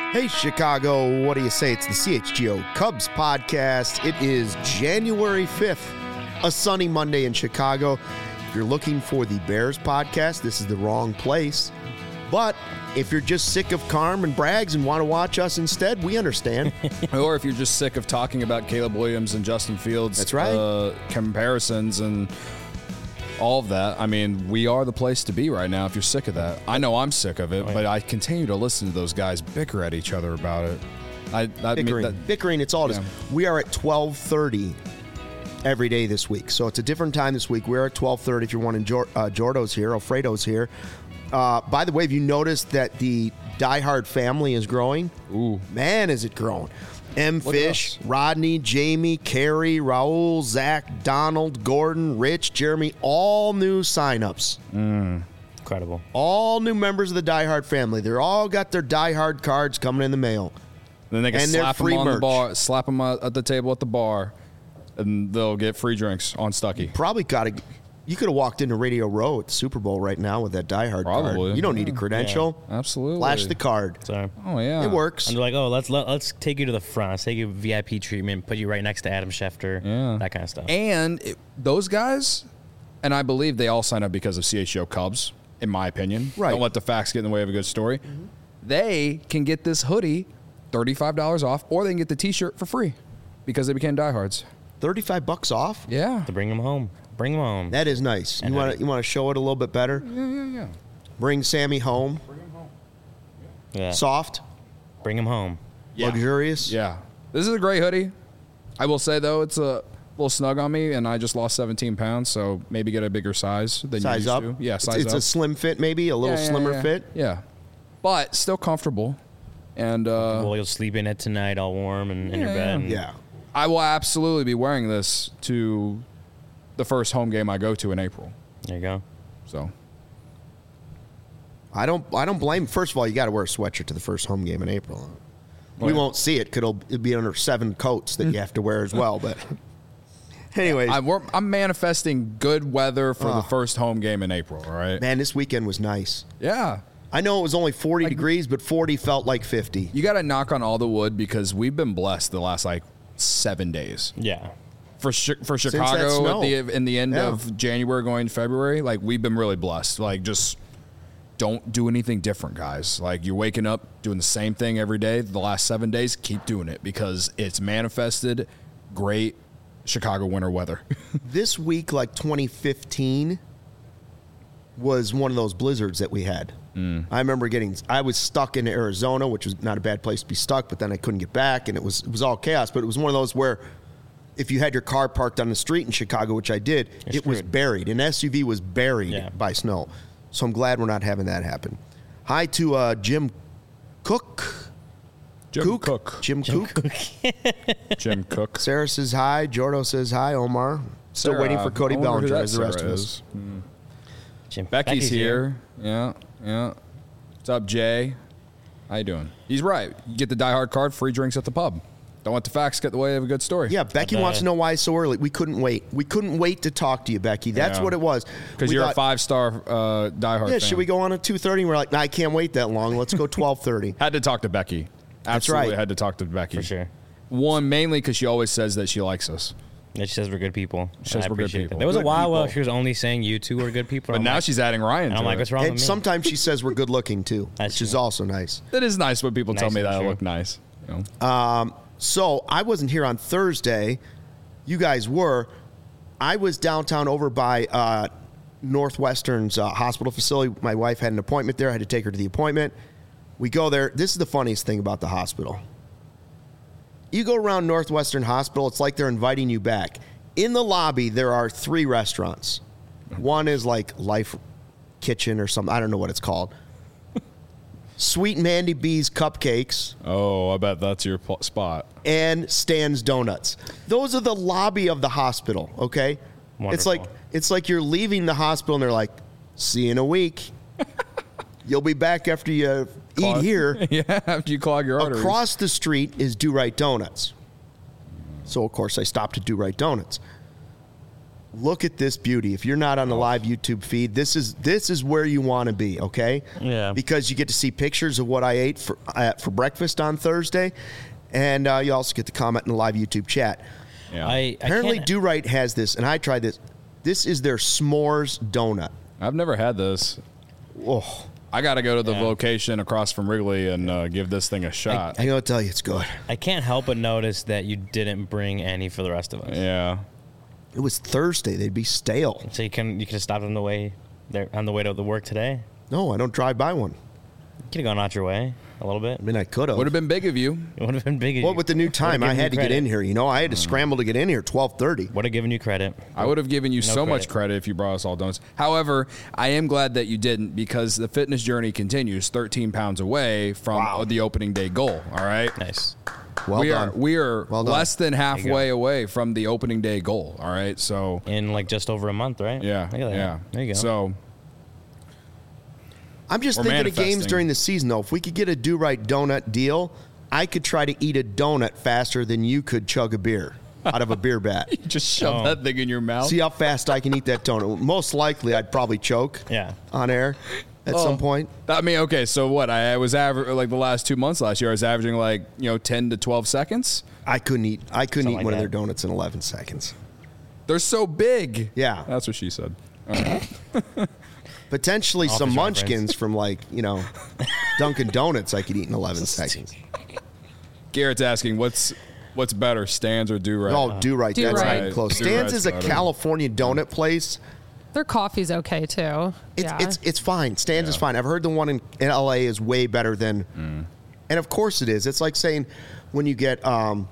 Hey, Chicago, what do you say? It's the CHGO Cubs podcast. It is January 5th, a sunny Monday in Chicago. If you're looking for the Bears podcast, this is the wrong place. But if you're just sick of Carm and Braggs and want to watch us instead, we understand. Or if you're just sick of talking about Caleb Williams and Justin Fields, that's right, comparisons and all of that. I mean, we are the place to be right now if you're sick of that. I know I'm sick of it, but I continue to listen to those guys bicker at each other about it. Bickering, it's all it is. We are at 12:30 every day this week. So it's a different time this week. We're at 12:30 if you're wanting Jordo's here, Alfredo's here. By the way, have you noticed that the Die Hard family is growing? Ooh. Man, is it growing. M. Fish, Rodney, Jamie, Carrie, Raul, Zach, Donald, Gordon, Rich, Jeremy, all new signups. Incredible. All new members of the Die Hard family. They're all got their Die Hard cards coming in the mail. Then they can slap them on the bar, slap them at the table at the bar, and they'll get free drinks on Stuckey. Probably got to. You could have walked into Radio Row at the Super Bowl right now with that Die Hard card. You don't need a credential. Yeah, absolutely. Flash the card. Sorry. Oh, yeah. It works. And they're like, oh, let's take you to the front. Let's take you VIP treatment, put you right next to Adam Schefter, that kind of stuff. And those guys, and I believe they all sign up because of CHGO Cubs, in my opinion. Right. Don't let the facts get in the way of a good story. Mm-hmm. They can get this hoodie $35 off, or they can get the T-shirt for free because they became diehards. $35 off? Yeah. To bring them home. Bring them home. That is nice. You want to show it a little bit better? Yeah. Bring Sammy home. Bring him home. Yeah. Soft. Bring him home. Yeah. Luxurious. Yeah. This is a great hoodie. I will say, though, it's a little snug on me, and I just lost 17 pounds, so maybe get a bigger size than you used to. Yeah, size up. It's a slim fit, maybe, a little slimmer fit. Yeah. But still comfortable. And well, you'll sleep in it tonight all warm and in your bed. Yeah. I will absolutely be wearing this to the first home game I go to in April. There you go. So I don't blame. First of all, you got to wear a sweatshirt to the first home game in April. We won't see it because it'll be under 7 coats that you have to wear as well. But anyways, I'm manifesting good weather for the first home game in April. All right, man, this weekend was nice. Yeah. I know it was only 40 degrees, but 40 felt like 50. You got to knock on all the wood because we've been blessed the last 7 days. Yeah. For Chicago in the end of January going to February, we've been really blessed. Just don't do anything different, guys. You're waking up doing the same thing every day. The last 7 days, keep doing it because it's manifested great Chicago winter weather. This week, 2015, was one of those blizzards that we had. I remember I was stuck in Arizona, which was not a bad place to be stuck, but then I couldn't get back, and it was all chaos. But it was one of those where if you had your car parked on the street in Chicago, which I did, it was buried. An SUV was buried by snow. So I'm glad we're not having that happen. Hi to Jim Cook. Jim Cook. Jim Cook. Jim Cook. Sarah says hi. Jordo says hi. Omar. Still waiting for Cody Bellinger as the rest of us. Becky's here. Yeah. What's up, Jay? How you doing? He's right. You get the Die Hard card, free drinks at the pub. Don't let the facts get in the way of a good story. Yeah, Becky wants to know why it's so early. We couldn't wait. We couldn't wait to talk to you, Becky. That's what it was. Because you're a 5-star Die Hard fan. Should we go on at 2:30? We're like, I can't wait that long. Let's go 12:30. Had to talk to Becky. Absolutely had to talk to Becky. For sure. One, mainly because she always says that she likes us. And she says we're good people. She says we're good people. There was a while where she was only saying you two were good people. But now she's adding Ryan to I'm like, what's wrong with me? Sometimes she says we're good looking too, which is also nice. It is nice when people tell me that I look nice. So I wasn't here on Thursday. You guys were. I was downtown over by Northwestern's hospital facility. My wife had an appointment there. I had to take her to the appointment. We go there. This is the funniest thing about the hospital. You go around Northwestern Hospital, it's like they're inviting you back. In the lobby, there are 3 restaurants. One is Life Kitchen or something. I don't know what it's called. Sweet Mandy B's Cupcakes. Oh, I bet that's your spot. And Stan's Donuts. Those are the lobby of the hospital, okay? Wonderful. It's like you're leaving the hospital and they're like, see you in a week. You'll be back after you eat here. Yeah, after you clog your arteries. Across the street is Do Right Donuts. So, of course, I stopped at Do Right Donuts. Look at this beauty. If you're not on the live YouTube feed, this is where you want to be, okay? Yeah. Because you get to see pictures of what I ate for breakfast on Thursday, and you also get to comment in the live YouTube chat. Yeah. Apparently, Do Right has this, and I tried this. This is their s'mores donut. I've never had this. Oh, I got to go to the location across from Wrigley and give this thing a shot. I gotta tell you, it's good. I can't help but notice that you didn't bring any for the rest of us. Yeah. It was Thursday. They'd be stale. So you could have stopped on the way to the work today. No, I don't drive by one. You could have gone out your way a little bit. I mean, I could have. Would have been big of you. It would have been big. Well, with the new time, I had to get in here. You know, I had to scramble to get in here. 12:30. Would have given you credit. I would have given you so much credit if you brought us all donuts. However, I am glad that you didn't because the fitness journey continues 13 pounds away from the opening day goal. All right. Nice. Well done. We are Well done. less than halfway away from the opening day goal. All right. So In like just over a month, right? yeah, Look at that. yeah. There you go. So I'm just We're thinking of games manifesting. during the season, though. If we could get a Do Right donut deal, I could try to eat a donut faster than you could chug a beer out of a beer bat. you just shove that thing in your mouth. See how fast I can eat that donut. Most likely, I'd probably choke Yeah. on air at some point. I mean, okay. So what? I was like the last 2 months last year. I was averaging 10 to 12 seconds. I couldn't eat like one of their that. donuts in 11 seconds. They're so big. Yeah. That's what she said. Potentially some Office munchkins from Dunkin' Donuts I could eat in 11 seconds. Garrett's asking, what's better, Stan's or Do Right? Oh, Do Right. Do That's Right. not even close. Do Stan's Right's is a better. California donut place. Their coffee's okay too. It's fine. Stan's is fine. I've heard the one in LA is way better than, and of course it is. It's like saying when you get,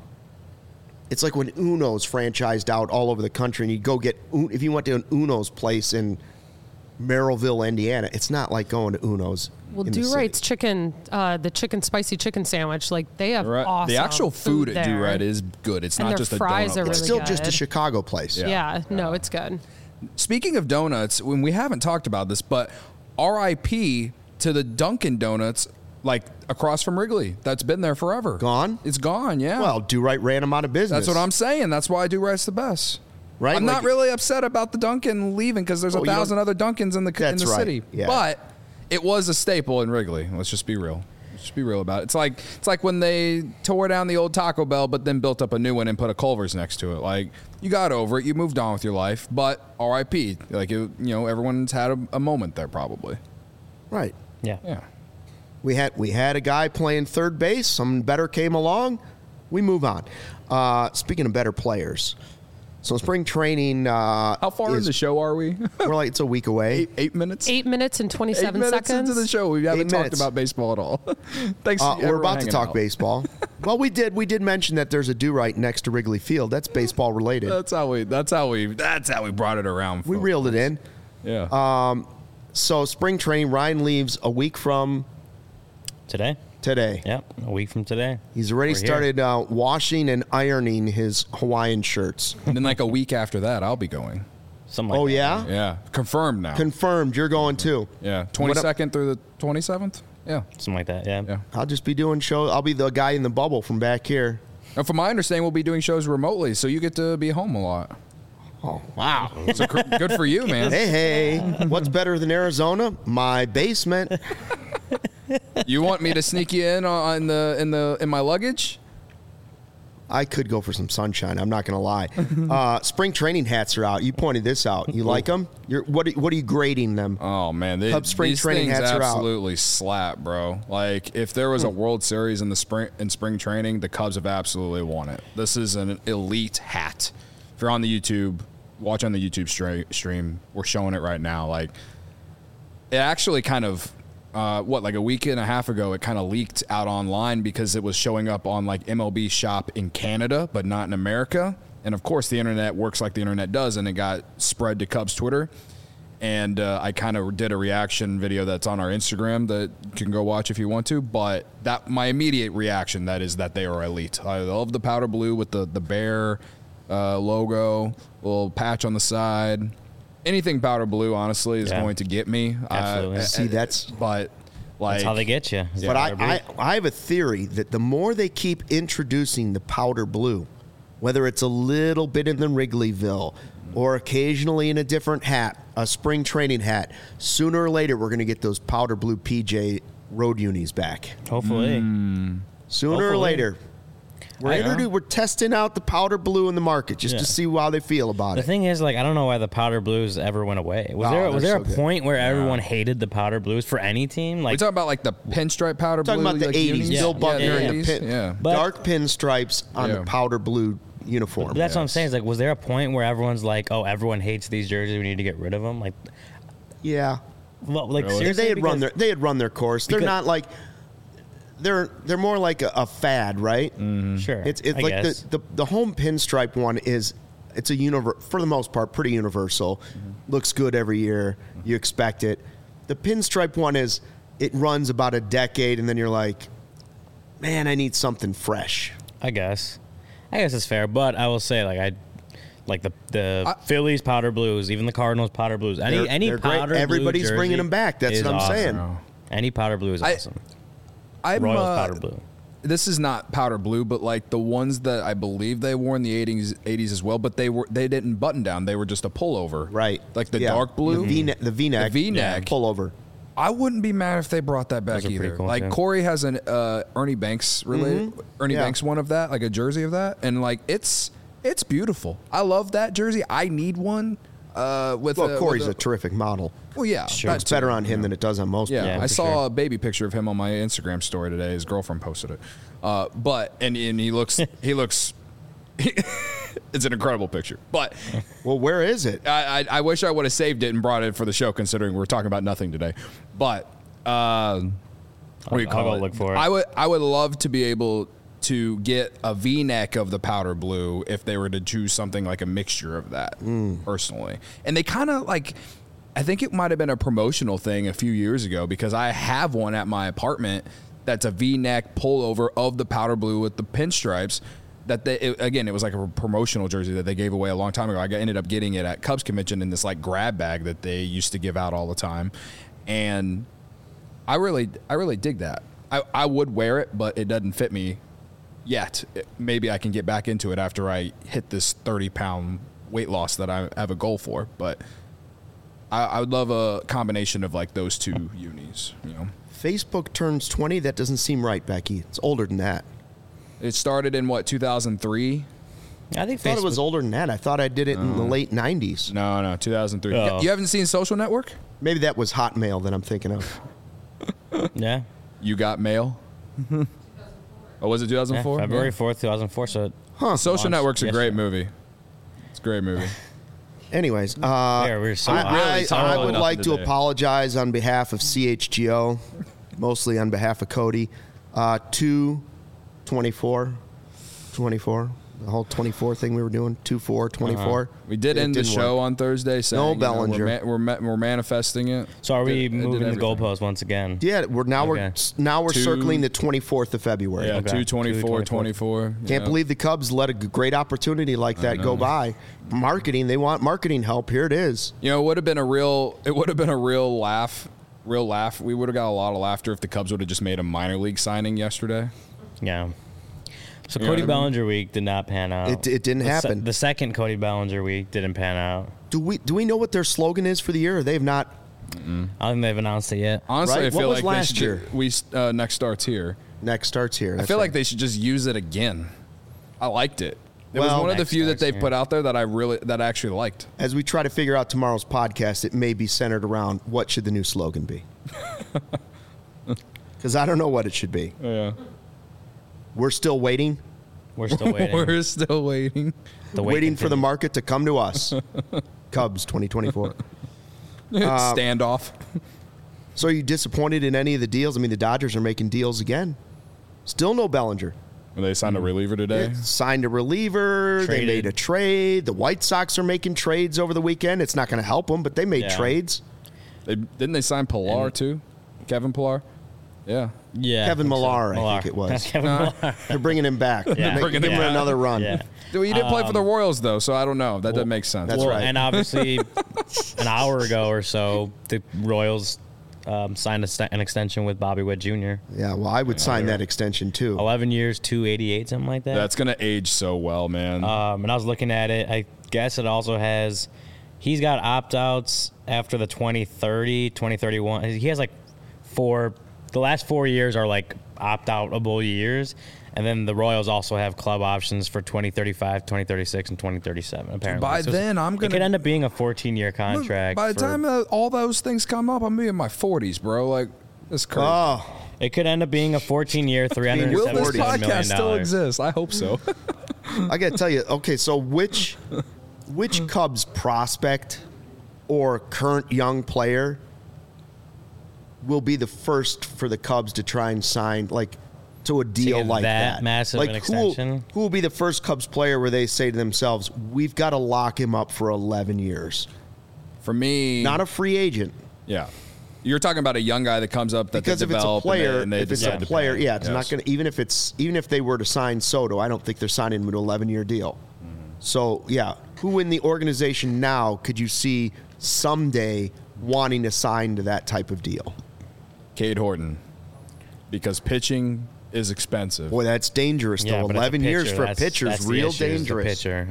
it's like when Uno's franchised out all over the country, and you go get if you went to an Uno's place in Merrillville, Indiana, it's not like going to Uno's. Well, in the Do city. Right's chicken, the spicy chicken sandwich, like they have awesome. The actual food at Do there. Right is good. It's And not their just a fries donut are place. It's really still just a good. Chicago place. Yeah, no, it's good. Speaking of donuts, when we haven't talked about this, but RIP to the Dunkin' Donuts, like across from Wrigley, that's been there forever. Gone? It's gone. Yeah. Well, Do Right ran them out of business. that's what I'm saying. That's why Do Right's the best. Right? I'm not Like- really upset about the Dunkin' leaving because there's Oh, you 1,000 don't- other Dunkins in the That's right. city. Yeah. But it was a staple in Wrigley. Let's just be real. Let's just be real about it. It's like when they tore down the old Taco Bell, but then built up a new one and put a Culver's next to it. Like you got over it, you moved on with your life. But RIP. Like everyone's had a moment there probably. Right. Yeah. Yeah. We had a guy playing third base. Someone better came along. We move on. Speaking of better players, so spring training. How far in the show are we? We're like it's a week away. 8 minutes. 8 minutes and 27 8 minutes seconds. into the show, we haven't 8 talked minutes. about baseball at all. Thanks. We're everyone about to hanging talk out. baseball. Well, we did mention that there's a Do Right next to Wrigley Field. That's baseball related. That's how we brought it around. We folks. reeled it in. Yeah. So spring training, Ryan leaves a week from Today? today. Yep. A week from today. He's already We're here. started washing and ironing his Hawaiian shirts. and then like a week after that, I'll be going. Something like Oh that. yeah? Yeah, confirmed now. Confirmed. You're going too. Yeah, What up- 22nd through the 27th. Yeah, Something like that. Yeah. yeah. I'll just be doing shows. I'll be the guy in the bubble from back here. And from my understanding, we'll be doing shows remotely, so you get to be home a lot. Oh wow! So good for you, man. Hey, what's better than Arizona? My basement. You want me to sneak you in in my luggage? I could go for some sunshine. I'm not going to lie. Spring training hats are out. You pointed this out. You like them? What are you grading them? Oh man, Cubs spring these training things hats are out. absolutely slap, bro. Like if there was a World Series in spring training, the Cubs have absolutely won it. This is an elite hat. If you're on the YouTube, watch on the YouTube stream. We're showing it right now. Like it actually kind of. Like a week and a half ago, it kind of leaked out online because it was showing up on like MLB Shop in Canada, but not in America. And of course, the internet works like the internet does, and it got spread to Cubs Twitter. And I kind of did a reaction video that's on our Instagram that you can go watch if you want to. But that my immediate reaction that is that they are elite. I love the powder blue with the bear logo, little patch on the side. Anything powder blue, honestly, is going to get me. Absolutely. See, that's But like That's how they get you. But I have a theory that the more they keep introducing the powder blue, whether it's a little bit in the Wrigleyville or occasionally in a different hat, a spring training hat. Sooner or later, we're going to get those powder blue PJ road unis back. Hopefully. Sooner or later. We're testing out the powder blue in the market just to see how they feel about The it. thing is, like, I don't know why the powder blues ever went away. Was there a point where everyone hated the powder blues for any team? Like, we talking about like the pinstripe powder blue. Talking about the 80s, unis? Bill Buckner and the dark pinstripes on the powder blue uniform. But that's what I'm saying. Is like, was there a point where everyone's like, "Oh, everyone hates these jerseys. We need to get rid of them." Like, yeah. Well, like Really? seriously, They had run their course. They're not like they're more like a fad, right? Sure. It's I like guess. the home pinstripe one is it's a for the most part pretty universal. Looks good every year. You expect it. The pinstripe one it runs about a decade and then you're like, man, I need something fresh. I guess it's fair, but I will say, like, the Phillies powder blues, even the Cardinals powder blues. Any they're powder great. Everybody's blue jersey bringing them back. That's is what I'm awesome. saying. Any powder blue is awesome. Royals powder blue. This is not powder blue, but like the ones that I believe they wore in the 80s as well, but they didn't button down. They were just a pullover. Right. Like the dark blue. The V-neck. The V-neck. Pullover. I wouldn't be mad if they brought that back Those are pretty either. cool, Like too. Corey has an Ernie Banks related Banks one of that, like a jersey of that, and like it's beautiful. I love that jersey. I need one. Corey's a terrific model. Well, yeah, Sure. It's better on him than it does on most Yeah, people. I for saw sure. a baby picture of him on my Instagram story today. His girlfriend posted it. And he looks it's an incredible picture. But Well, where is it? I wish I would have saved it and brought it for the show, considering we're talking about nothing today. But what do you call I'll it? go look for it. I would love to be able to get a V-neck of the powder blue if they were to choose something like a mixture of that, personally. And they kind of like, I think it might have been a promotional thing a few years ago because I have one at my apartment that's a V-neck pullover of the powder blue with the pinstripes. It was like a promotional jersey that they gave away a long time ago. I ended up getting it at Cubs convention in this like grab bag that they used to give out all the time, and I really dig that. I would wear it, but it doesn't fit me yet. Maybe I can get back into it after I hit this 30-pound weight loss that I have a goal for. But I would love a combination of like those two unis. You know, Facebook turns 20. That doesn't seem right, Becky. It's older than that. it started in what 2003. I think I thought it was older than that. I thought I did it in the late 90s. No, 2003. Oh. You haven't seen Social Network? Maybe that was Hotmail that I'm thinking of. Yeah. You Got Mail? Oh, was it 2004? February 4th, 2004. So Social launched Network's a great yesterday. movie. It's a great movie. Anyways, we're so I talking would about like to today. apologize on behalf of CHGO, mostly on behalf of Cody. 2/24, the whole 24 thing we were doing, 2/4/24. We did It end the didn't show work. on Thursday saying Bellinger. we're manifesting it. So are we It did moving the everything. goalpost once again? Yeah, we're Okay. Two, circling the 24th of February. Yeah, Okay. 2/24/24. Can't believe the Cubs let a great opportunity like that go by. Marketing, they want marketing help. Here it is. You know, it would have been a real laugh. We would have got a lot of laughter if the Cubs would have just made a minor league signing yesterday. Yeah. So You know Cody what I mean? Bellinger week did not pan out. It didn't happen. The second Cody Bellinger week didn't pan out. Do we know what their slogan is for the year? Or they have not. I don't think they've announced it yet. Honestly, Right? I feel What was like last year? Next starts here. Next starts here. I That's feel right. like they should just use it again. I liked it. It was Well, one of the Next few that starts they've here. put out there that I actually liked. As we try to figure out tomorrow's podcast, it may be centered around what should the new slogan be. Because I don't know what it should be. Yeah. We're still waiting. We're still waiting. We're still waiting. The wait Waiting for the continues. market to come to us. Cubs 2024. Standoff. So are you disappointed in any of the deals? I mean, the Dodgers are making deals again. Still no Bellinger. They signed a reliever today. Signed a reliever. They Traded. made a trade. The White Sox are making trades over the weekend. It's not going to help them, but they made Yeah. trades. Didn't they sign Pilar too? Kevin Pilar? Yeah. Yeah. Kevin I think so. Millar, I think it was. Kevin Millar. They're bringing him back. Yeah. Give him Yeah. another run. Yeah. Well, you didn't play for the Royals though, so I don't know. That doesn't make sense. That's Well, right. And obviously, an hour ago or so, the Royals signed an extension with Bobby Witt Jr. Yeah, well, I would sign that extension too. 11 years, 288, something like that. That's gonna age so well, man. And I was looking at it. guess it also has. He's got opt-outs after the 2030, 2031. He has like the last 4 years are like opt-outable years. And then the Royals also have club options for 2035, 2036, and 2037, apparently. By then, I'm going to... It could end up being a 14-year contract. By the time all those things come up, I'm going to be in my 40s, bro. Like, it's crazy. Oh. It could end up being a 14-year, $375 million. Will this podcast still exist? I hope so. I got to tell you, okay, so which Cubs prospect or current young player will be the first for the Cubs to try and sign, like, to a deal like that? Massive like, an extension? Who will be the first Cubs player where they say to themselves, we've got to lock him up for 11 years? For me... Not a free agent. Yeah. You're talking about a young guy that comes up that because they if it's develop a player, and they if it's a player, yeah, it's not going to. Even if they were to sign Soto, I don't think they're signing him to an 11-year deal. Mm-hmm. So yeah, who in the organization now could you see someday wanting to sign to that type of deal? Cade Horton, because pitching is expensive. Boy, that's dangerous though. 11 years for a pitcher is real dangerous. Pitcher,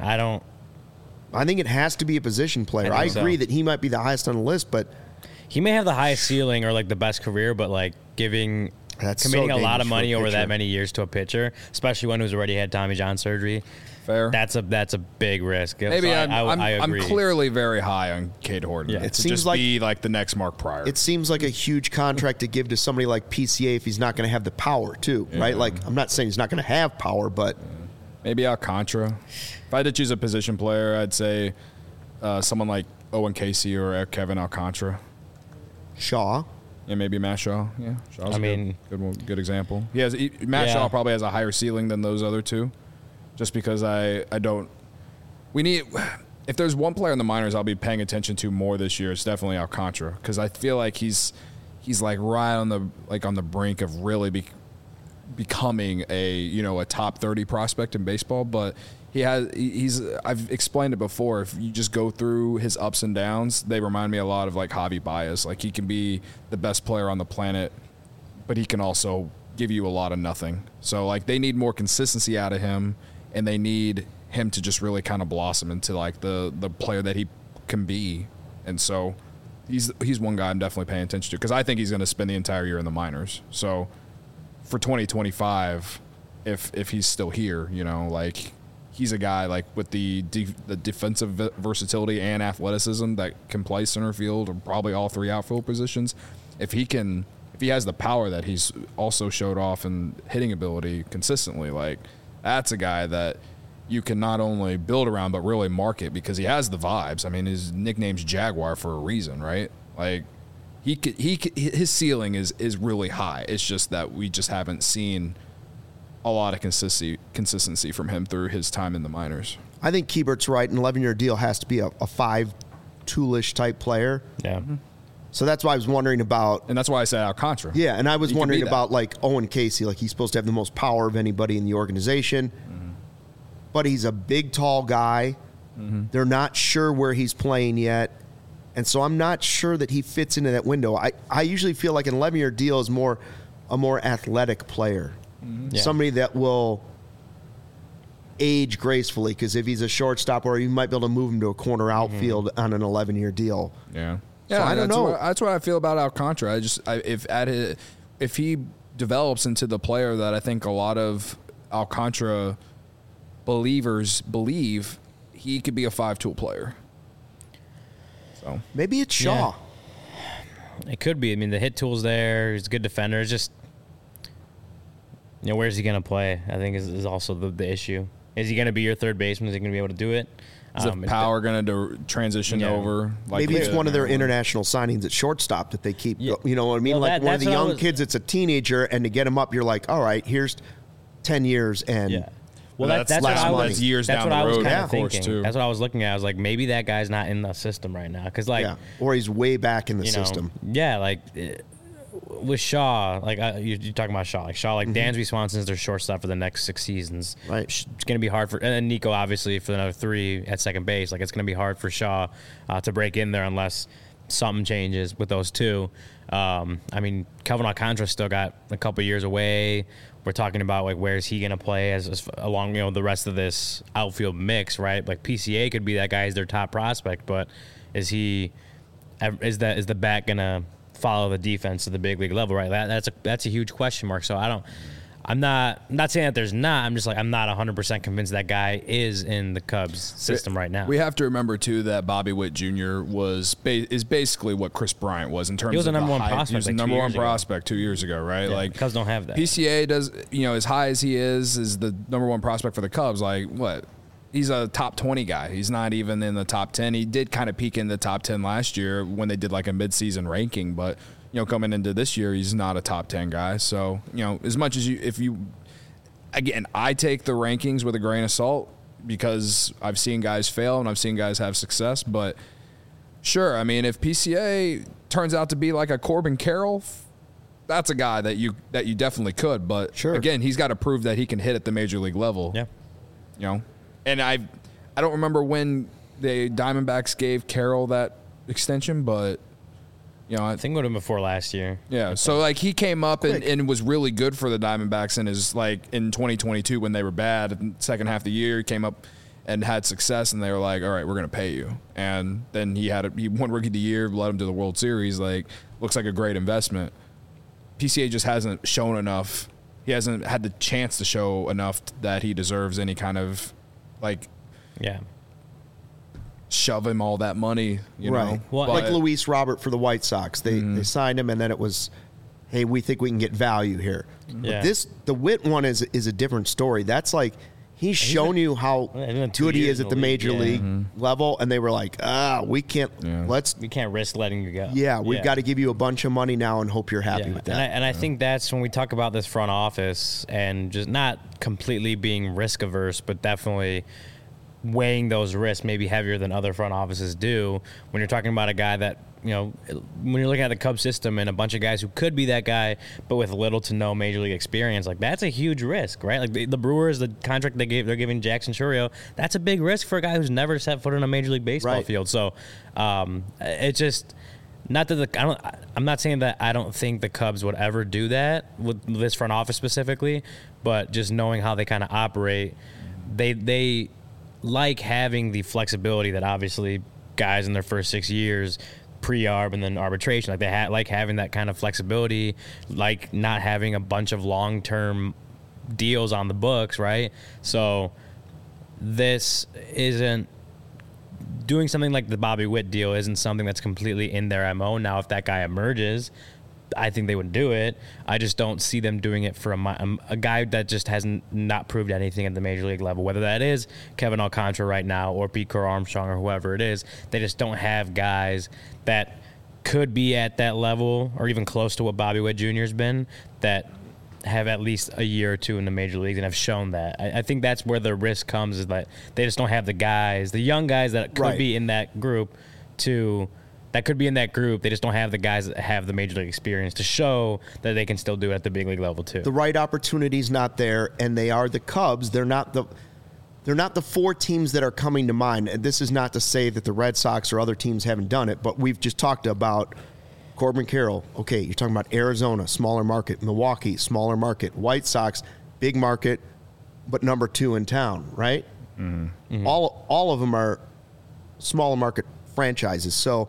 I think it has to be a position player. I agree that he might be the highest on the list, but. He may have the highest ceiling or like the best career, but like committing a lot of money over that many years to a pitcher, especially one who's already had Tommy John surgery. Fair. That's a big risk. Maybe so I agree. I'm clearly very high on Cade Horton. Yeah. It to seems just be like the next Mark Pryor. It seems like a huge contract to give to somebody like PCA if he's not going to have the power too, right? Like I'm not saying he's not going to have power, but maybe Alcantara. If I had to choose a position player, I'd say someone like Owen Casey or Kevin Alcantara. Shaw. Yeah, maybe Matt Shaw. Yeah, Shaw's good example. Matt Shaw probably has a higher ceiling than those other two, just because we need. If there's one player in the minors I'll be paying attention to more this year, it's definitely Alcantara, because I feel like he's like right on the brink of really becoming a top 30 prospect in baseball, but. I've explained it before. If you just go through his ups and downs, they remind me a lot of like Javi Baez. Like he can be the best player on the planet, but he can also give you a lot of nothing. So like they need more consistency out of him, and they need him to just really kind of blossom into like the player that he can be. And so he's one guy I'm definitely paying attention to, because I think he's going to spend the entire year in the minors. So for 2025, if he's still here, like. He's a guy like with the defensive versatility and athleticism that can play center field or probably all three outfield positions. If he has the power that he's also showed off in hitting ability consistently, like that's a guy that you can not only build around but really market, because he has the vibes. I mean, his nickname's Jaguar for a reason, right? Like his ceiling is really high. It's just that we just haven't seen a lot of consistency from him through his time in the minors. I think Kiebert's right. An 11-year deal has to be a 5-toolish type player. Yeah. Mm-hmm. So that's why I was wondering about. And that's why I said Alcantara. Yeah, and I was wondering about like Owen Casey. Like he's supposed to have the most power of anybody in the organization. Mm-hmm. But he's a big, tall guy. Mm-hmm. They're not sure where he's playing yet. And so I'm not sure that he fits into that window. I usually feel like an 11-year deal is a more athletic player. Yeah. Somebody that will age gracefully, because if he's a shortstop, or you might be able to move him to a corner outfield on an 11-year deal. Yeah. So I don't know. That's what I feel about Alcantara. If he develops into the player that I think a lot of Alcantara believers believe, he could be a 5-tool player. So maybe it's Shaw. Yeah. It could be. I mean, the hit tool's there. He's a good defender. It's just. Where's he going to play? I think is also the issue. Is he going to be your third baseman? Is he going to be able to do it? Is the power going to transition over? Maybe it's one of their international signings at shortstop that they keep. Yeah. You know what I mean? Well, one of the young kids that's a teenager, and to get him up, you're like, all right, here's 10 years and. Yeah. Well, that's years down the road. That's what I was kind of thinking. Too. That's what I was looking at. I was like, maybe that guy's not in the system right now, because or he's way back in the system. Yeah, like. With Shaw, like you're talking about Shaw, like Dansby Swanson's their shortstop for the next 6 seasons. Right, it's going to be hard for, and Nico obviously for another 3 at second base. Like it's going to be hard for Shaw to break in there unless something changes with those two. I mean, Kelvin Alcantara still got a couple years away. We're talking about like where's he going to play as along the rest of this outfield mix, right? Like PCA could be that guy as their top prospect, but is the bat going to follow the defense to the big league level, right? That's a huge question mark. So I'm not saying that there's not. I'm just like I'm not 100% convinced that guy is in the Cubs system right now. We have to remember too that Bobby Witt Jr. is basically what Chris Bryant was in terms of he was a number one prospect. He was a number one prospect 2 years ago, right? Yeah, like Cubs don't have that. PCA does, as high as he is the number one prospect for the Cubs. Like what? He's a top 20 guy. He's not even in the top 10. He did kind of peak in the top 10 last year when they did like a midseason ranking, but coming into this year, he's not a top 10 guy. So, as much as again, I take the rankings with a grain of salt because I've seen guys fail and I've seen guys have success. But sure, I mean, if PCA turns out to be like a Corbin Carroll, that's a guy that you definitely could. But sure, again, he's got to prove that he can hit at the major league level. Yeah. And I don't remember when the Diamondbacks gave Carroll that extension, but I think it would have been before last year. Yeah, so like he came up and was really good for the Diamondbacks in his in 2022 when they were bad. In the second half of the year, he came up and had success, and they were like, "All right, we're going to pay you." And then he won Rookie of the Year, led him to the World Series. Like, looks like a great investment. PCA just hasn't shown enough. He hasn't had the chance to show enough that he deserves any kind of shove him all that money, right. Well, like Luis Robert for the White Sox. They signed him, and then it was, hey, we think we can get value here. Yeah. But the Witt one is a different story. That's like he's shown you how good he is at the major league level, and they were like, we can't we can't risk letting you go. Yeah, we've got to give you a bunch of money now and hope you're happy with that. And I think that's when we talk about this front office and just not completely being risk averse, but definitely weighing those risks maybe heavier than other front offices do. When you're talking about a guy that, when you're looking at the Cubs system and a bunch of guys who could be that guy, but with little to no major league experience, like that's a huge risk, right? Like the Brewers, the contract they're giving Jackson Chourio, that's a big risk for a guy who's never set foot in a major league baseball field. So it's just not that I'm not saying that I don't think the Cubs would ever do that with this front office specifically, but just knowing how they kind of operate, they like having the flexibility that obviously guys in their first 6 years pre-arb and then arbitration, like they like having that kind of flexibility, like not having a bunch of long-term deals on the books, right? So this isn't doing something like the Bobby Witt deal isn't something that's completely in their MO. Now, if that guy emerges, I think they would do it. I just don't see them doing it for a guy that just hasn't not proved anything at the major league level, whether that is Kevin Alcantara right now or Pete Crow Armstrong or whoever it is. They just don't have guys that could be at that level or even close to what Bobby Witt Jr. has been that have at least a year or two in the major leagues and have shown that. I think that's where the risk comes, is that they just don't have the guys, the young guys that could be in that group that could be in that group. They just don't have the guys that have the major league experience to show that they can still do it at the big league level too. The right opportunity's not there, and they are the Cubs. They're not the four teams that are coming to mind. And this is not to say that the Red Sox or other teams haven't done it, but we've just talked about Corbin Carroll. Okay, you're talking about Arizona, smaller market. Milwaukee, smaller market. White Sox, big market, but number 2 in town, right? Mm-hmm. All of them are smaller market franchises. So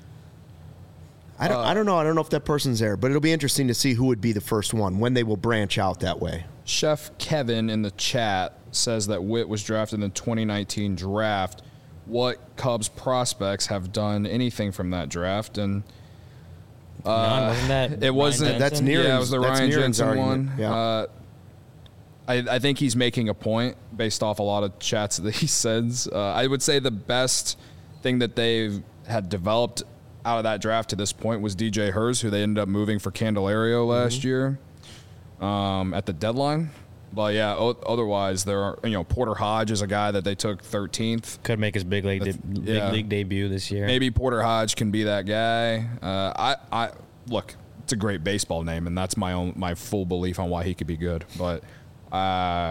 I don't know. I don't know if that person's there, but it'll be interesting to see who would be the first one, when they will branch out that way. Chef Kevin in the chat says that Witt was drafted in the 2019 draft. What Cubs prospects have done anything from that draft? And wasn't that it wasn't. That's Nieren's. Yeah, it was the Ryan Jensen one. Yeah. I think he's making a point based off a lot of chats that he sends. I would say the best thing that they've had developed out of that draft to this point was DJ Hurst, who they ended up moving for Candelario last year at the deadline. But yeah, otherwise there are, Porter Hodge is a guy that they took 13th. Could make his big league debut this year. Maybe Porter Hodge can be that guy. I look, it's a great baseball name, and that's my full belief on why he could be good. But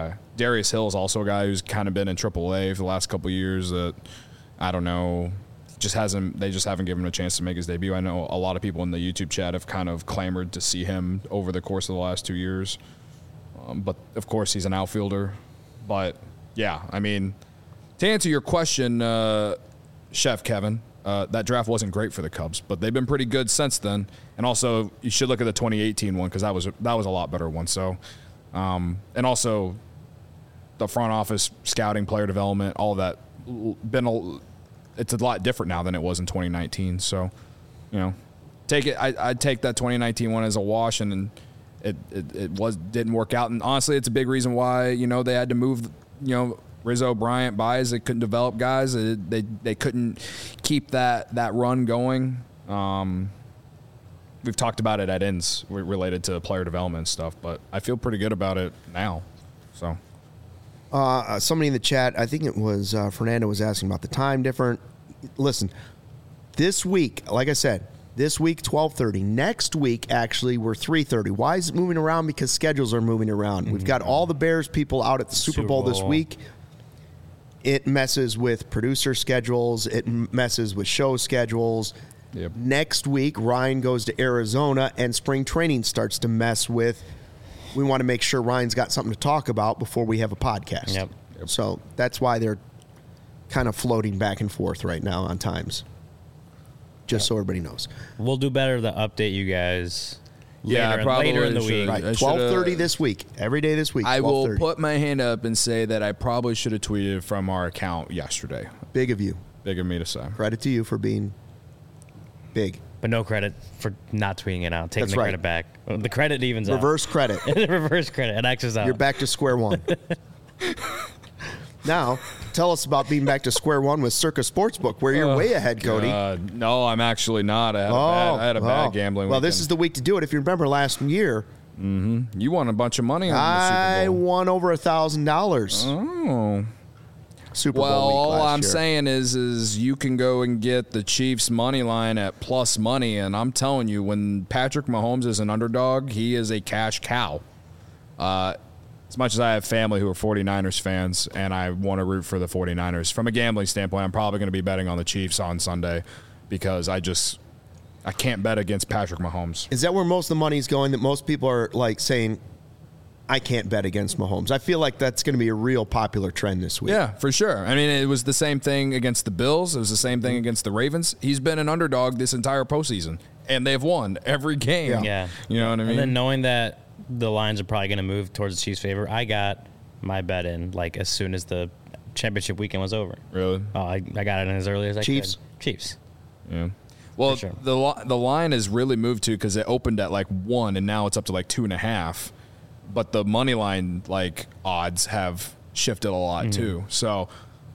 Darius Hill is also a guy who's kind of been in AAA for the last couple of years. That I don't know, they just haven't given him a chance to make his debut. I know a lot of people in the YouTube chat have kind of clamored to see him over the course of the last 2 years. But of course he's an outfielder. But yeah, I mean, to answer your question, Chef Kevin, that draft wasn't great for the Cubs, but they've been pretty good since then. And also, you should look at the 2018 one because that was a lot better one. So, and also, the front office scouting, player development, all of that it's a lot different now than it was in 2019. So, take it. I'd take that 2019 one as a wash, and it didn't work out. And honestly, it's a big reason why they had to move Rizzo, Bryant, Baez. They couldn't develop guys. They couldn't keep that run going. We've talked about it at ends related to player development stuff, but I feel pretty good about it now. So, somebody in the chat, I think it was Fernando, was asking about the time difference. Listen, this week, like I said, this week 12:30. Next week, actually, we're 3:30. Why is it moving around? Because schedules are moving around. We've got all the Bears people out at the Super Bowl this week. It messes with producer schedules. It messes with show schedules. Yep. Next week, Ryan goes to Arizona, and spring training starts to mess with. We want to make sure Ryan's got something to talk about before we have a podcast. Yep. So that's why they're kind of floating back and forth right now on times. Just so everybody knows. We'll do better to update you guys later in the week. Right, 12:30 this week. Every day this week. I will put my hand up and say that I probably should have tweeted from our account yesterday. Big of you. Big of me to say. Credit to you for being big. But no credit for not tweeting it out, taking credit back. The credit evens out. Reverse credit. Reverse credit. It X's out. You're back to square one. Now, tell us about being back to square one with Circa Sportsbook, where you're way ahead, Cody. No, I'm actually not. I had a bad gambling Well, weekend. this is the week to do it. If you remember last year, you won a bunch of money on the Super I Bowl. won over $1,000. Oh. Super Bowl Well, week all last I'm year. saying is you can go and get the Chiefs money line at plus money, and I'm telling you, when Patrick Mahomes is an underdog, he is a cash cow. As much as I have family who are 49ers fans and I want to root for the 49ers, from a gambling standpoint, I'm probably going to be betting on the Chiefs on Sunday because I can't bet against Patrick Mahomes. Is that where most of the money is going, that most people are like saying, I can't bet against Mahomes? I feel like that's going to be a real popular trend this week. Yeah, for sure. I mean, it was the same thing against the Bills. It was the same thing against the Ravens. He's been an underdog this entire postseason, and they've won every game. Yeah. You know what I mean? And then knowing that the lines are probably going to move towards the Chiefs' favor, I got my bet in like as soon as the championship weekend was over. Really? Oh, I got it in as early as I Chiefs? could. Chiefs. Yeah. Well, sure. the line has really moved too because it opened at like 1 and now it's up to like 2.5. But the money line like odds have shifted a lot too. So,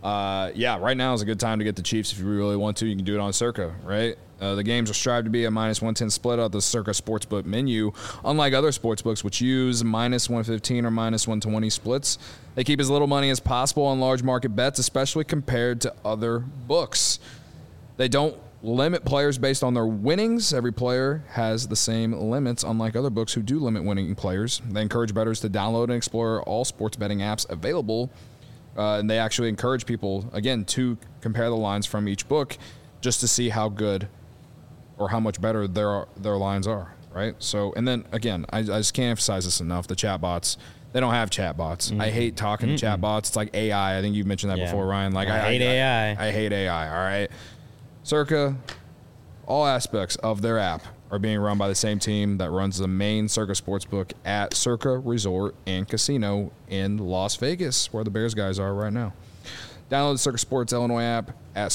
right now is a good time to get the Chiefs if you really want to. You can do it on Circa, right? The games will strive to be a -110 split out the Circa Sportsbook menu. Unlike other sportsbooks, which use -115 or -120 splits, they keep as little money as possible on large market bets, especially compared to other books. They don't limit players based on their winnings. Every player has the same limits, unlike other books who do limit winning players. They encourage bettors to download and explore all sports betting apps available. And they actually encourage people, again, to compare the lines from each book just to see how good or how much better their lines are, right? So, and then, again, I just can't emphasize this enough. The chat bots, they don't have chat bots. I hate talking to chat bots. It's like AI. I think you've mentioned that before, Ryan. Like I hate AI. I hate AI, all right? Circa, all aspects of their app are being run by the same team that runs the main Circa Sportsbook at Circa Resort and Casino in Las Vegas, where the Bears guys are right now. Download the Circa Sports Illinois app at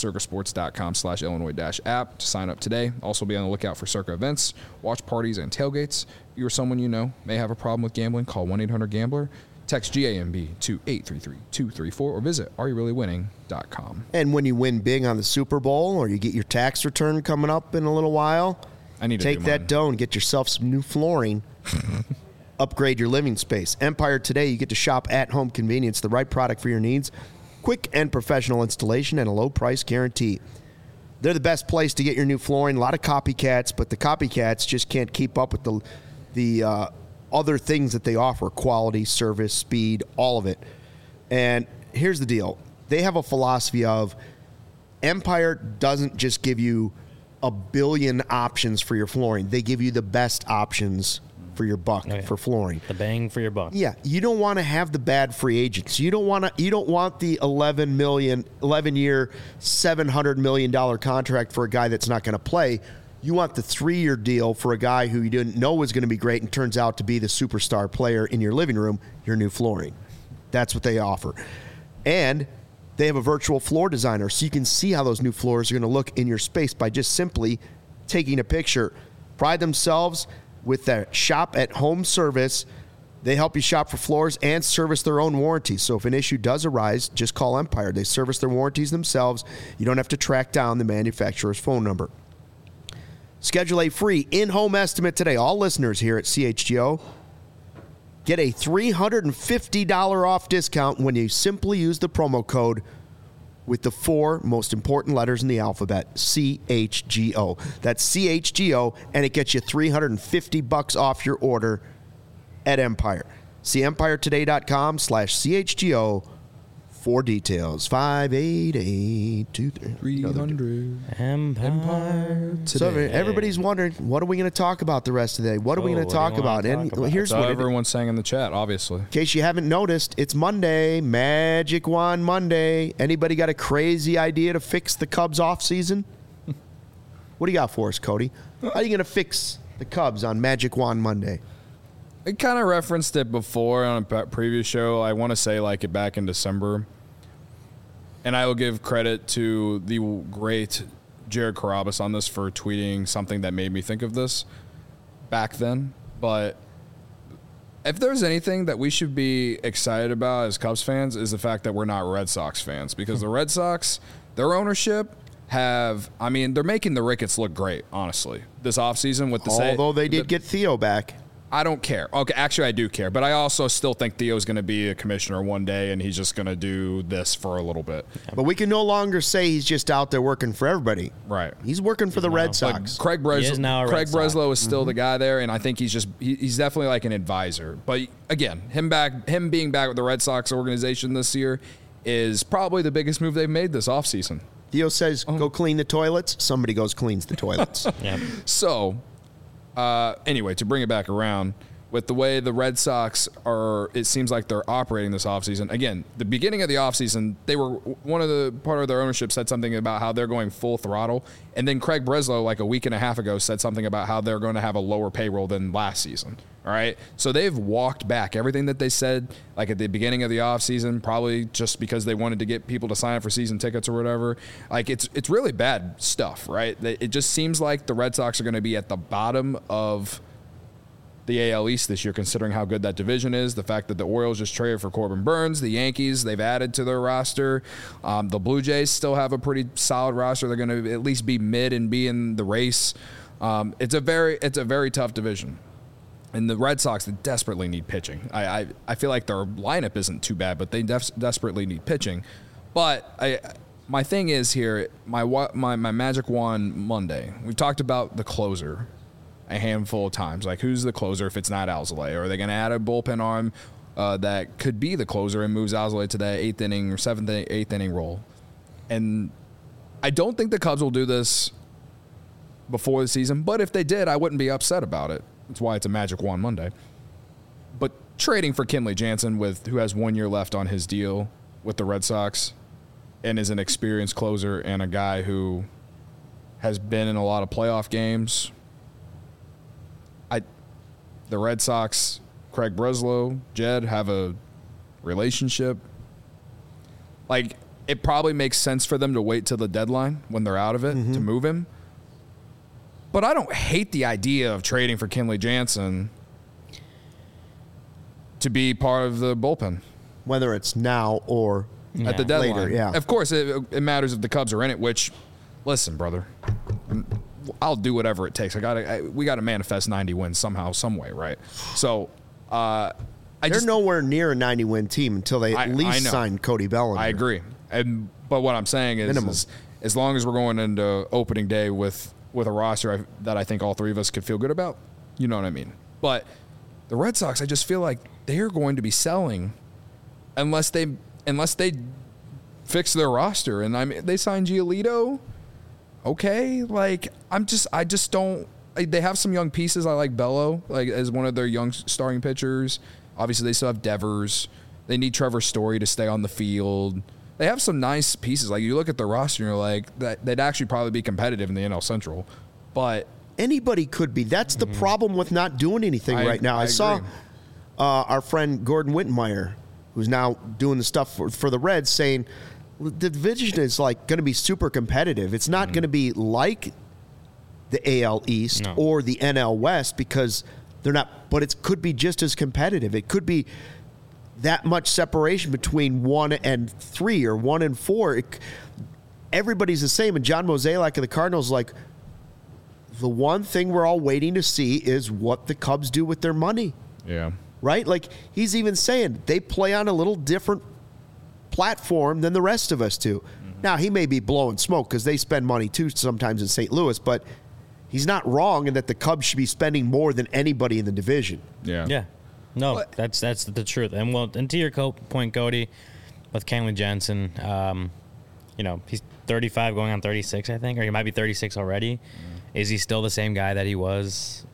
circasports.com/Illinois-app to sign up today. Also be on the lookout for Circa events, watch parties, and tailgates. If you or someone you know may have a problem with gambling, call 1-800-GAMBLER. Text GAMB to 833-234 or visit areyourreallywinning.com. And when you win big on the Super Bowl or you get your tax return coming up in a little while, I need to take that dough and get yourself some new flooring. Upgrade your living space. Empire Today, you get to shop at home convenience, the right product for your needs. Quick and professional installation and a low price guarantee. They're the best place to get your new flooring. A lot of copycats, but the copycats just can't keep up with the other things that they offer: quality, service, speed, all of it. And here's the deal. They have a philosophy of Empire doesn't just give you a billion options for your flooring. They give you the best options for your buck for flooring. The bang for your buck. Yeah, you don't want to have the bad free agents. You don't want the 11-year, $700 million contract for a guy that's not going to play. You want the 3-year deal for a guy who you didn't know was going to be great and turns out to be the superstar player in your living room, your new flooring. That's what they offer. And they have a virtual floor designer, so you can see how those new floors are going to look in your space by just simply taking a picture. Pride themselves with their shop-at-home service. They help you shop for floors and service their own warranties. So if an issue does arise, just call Empire. They service their warranties themselves. You don't have to track down the manufacturer's phone number. Schedule a free in-home estimate today. All listeners here at CHGO get a $350 off discount when you simply use the promo code with the 4 most important letters in the alphabet, CHGO. That's CHGO, and it gets you $350 off your order at Empire. See EmpireToday.com/CHGO for details. 588-2300. Empire Today. So everybody's wondering, what are we going to talk about the rest of the day? What are we going to talk about? And here's what everyone's saying in the chat, obviously. In case you haven't noticed, it's Monday, Magic Wand Monday. Anybody got a crazy idea to fix the Cubs off season? What do you got for us, Cody? How are you going to fix the Cubs on Magic Wand Monday? I kind of referenced it before on a previous show. I want to say like it back in December. And I will give credit to the great Jared Carabas on this for tweeting something that made me think of this back then. But if there's anything that we should be excited about as Cubs fans is the fact that we're not Red Sox fans. Because the Red Sox, their ownership they're making the Ricketts look great, honestly, this offseason with the Although they did get Theo back. I don't care. Okay, actually, I do care. But I also still think Theo's going to be a commissioner one day, and he's just going to do this for a little bit. But we can no longer say he's just out there working for everybody. Right. He's working for the Red Sox. Craig Breslow is still the guy there, and I think he's definitely like an advisor. But again, him being back with the Red Sox organization this year is probably the biggest move they've made this offseason. Theo says, go clean the toilets. Somebody goes cleans the toilets. Yep. So... anyway, to bring it back around, with the way the Red Sox it seems like they're operating this offseason. Again, the beginning of the offseason, part of their ownership said something about how they're going full throttle. And then Craig Breslow, like a week and a half ago, said something about how they're going to have a lower payroll than last season. All right. So they've walked back everything that they said, like at the beginning of the offseason, probably just because they wanted to get people to sign up for season tickets or whatever. Like it's really bad stuff, right? It just seems like the Red Sox are going to be at the bottom of the AL East this year, considering how good that division is. The fact that the Orioles just traded for Corbin Burns, the Yankees, they've added to their roster. The Blue Jays still have a pretty solid roster. They're going to at least be mid and be in the race. It's a very tough division. And the Red Sox, they desperately need pitching. I feel like their lineup isn't too bad, but they desperately need pitching. But my thing is here, my Magic Wand Monday, we've talked about the closer a handful of times. Like, who's the closer if it's not Alzolay? Or are they going to add a bullpen arm that could be the closer and moves Alzolay to the 8th inning or 7th, 8th inning role? And I don't think the Cubs will do this before the season, but if they did, I wouldn't be upset about it. That's why it's a Magic Wand Monday. But trading for Kenley Jansen, who has 1 year left on his deal with the Red Sox and is an experienced closer and a guy who has been in a lot of playoff games, the Red Sox, Craig Breslow, Jed, have a relationship. Like, it probably makes sense for them to wait till the deadline when they're out of it to move him. But I don't hate the idea of trading for Kenley Jansen to be part of the bullpen. Whether it's now or at the deadline. Later, yeah. Of course, it matters if the Cubs are in it, which, listen, brother, I'll do whatever it takes. We got to manifest 90 wins somehow, some way, right? So, they're nowhere near a 90-win team until they at least sign Cody Bellinger. I agree. But what I'm saying is as long as we're going into opening day with a roster that I think all three of us could feel good about, you know what I mean? But the Red Sox, I just feel like they're going to be selling unless they fix their roster. And I mean, they signed Giolito. Okay, like I just don't. They have some young pieces. I like Bello, like as one of their young starting pitchers. Obviously, they still have Devers. They need Trevor Story to stay on the field. They have some nice pieces. Like you look at the roster, and you're like, they'd actually probably be competitive in the NL Central. But anybody could be. That's the problem with not doing anything right now. I saw our friend Gordon Wittenmeyer, who's now doing the stuff for the Reds, saying the division is like going to be super competitive. It's not going to be like the AL East or the NL West because they're not, but it could be just as competitive. It could be that much separation between 1 and 3 or 1 and 4. Everybody's the same. And John Mozeliak of the Cardinals, like, the one thing we're all waiting to see is what the Cubs do with their money. Yeah. Right? Like, he's even saying they play on a little different platform than the rest of us do. Mm-hmm. Now, he may be blowing smoke because they spend money, too, sometimes in St. Louis, but he's not wrong in that the Cubs should be spending more than anybody in the division. Yeah. Yeah. No, that's the truth. And to your point, Cody, with Kenley Jansen, he's 35 going on 36, I think, or he might be 36 already. Is he still the same guy that he was,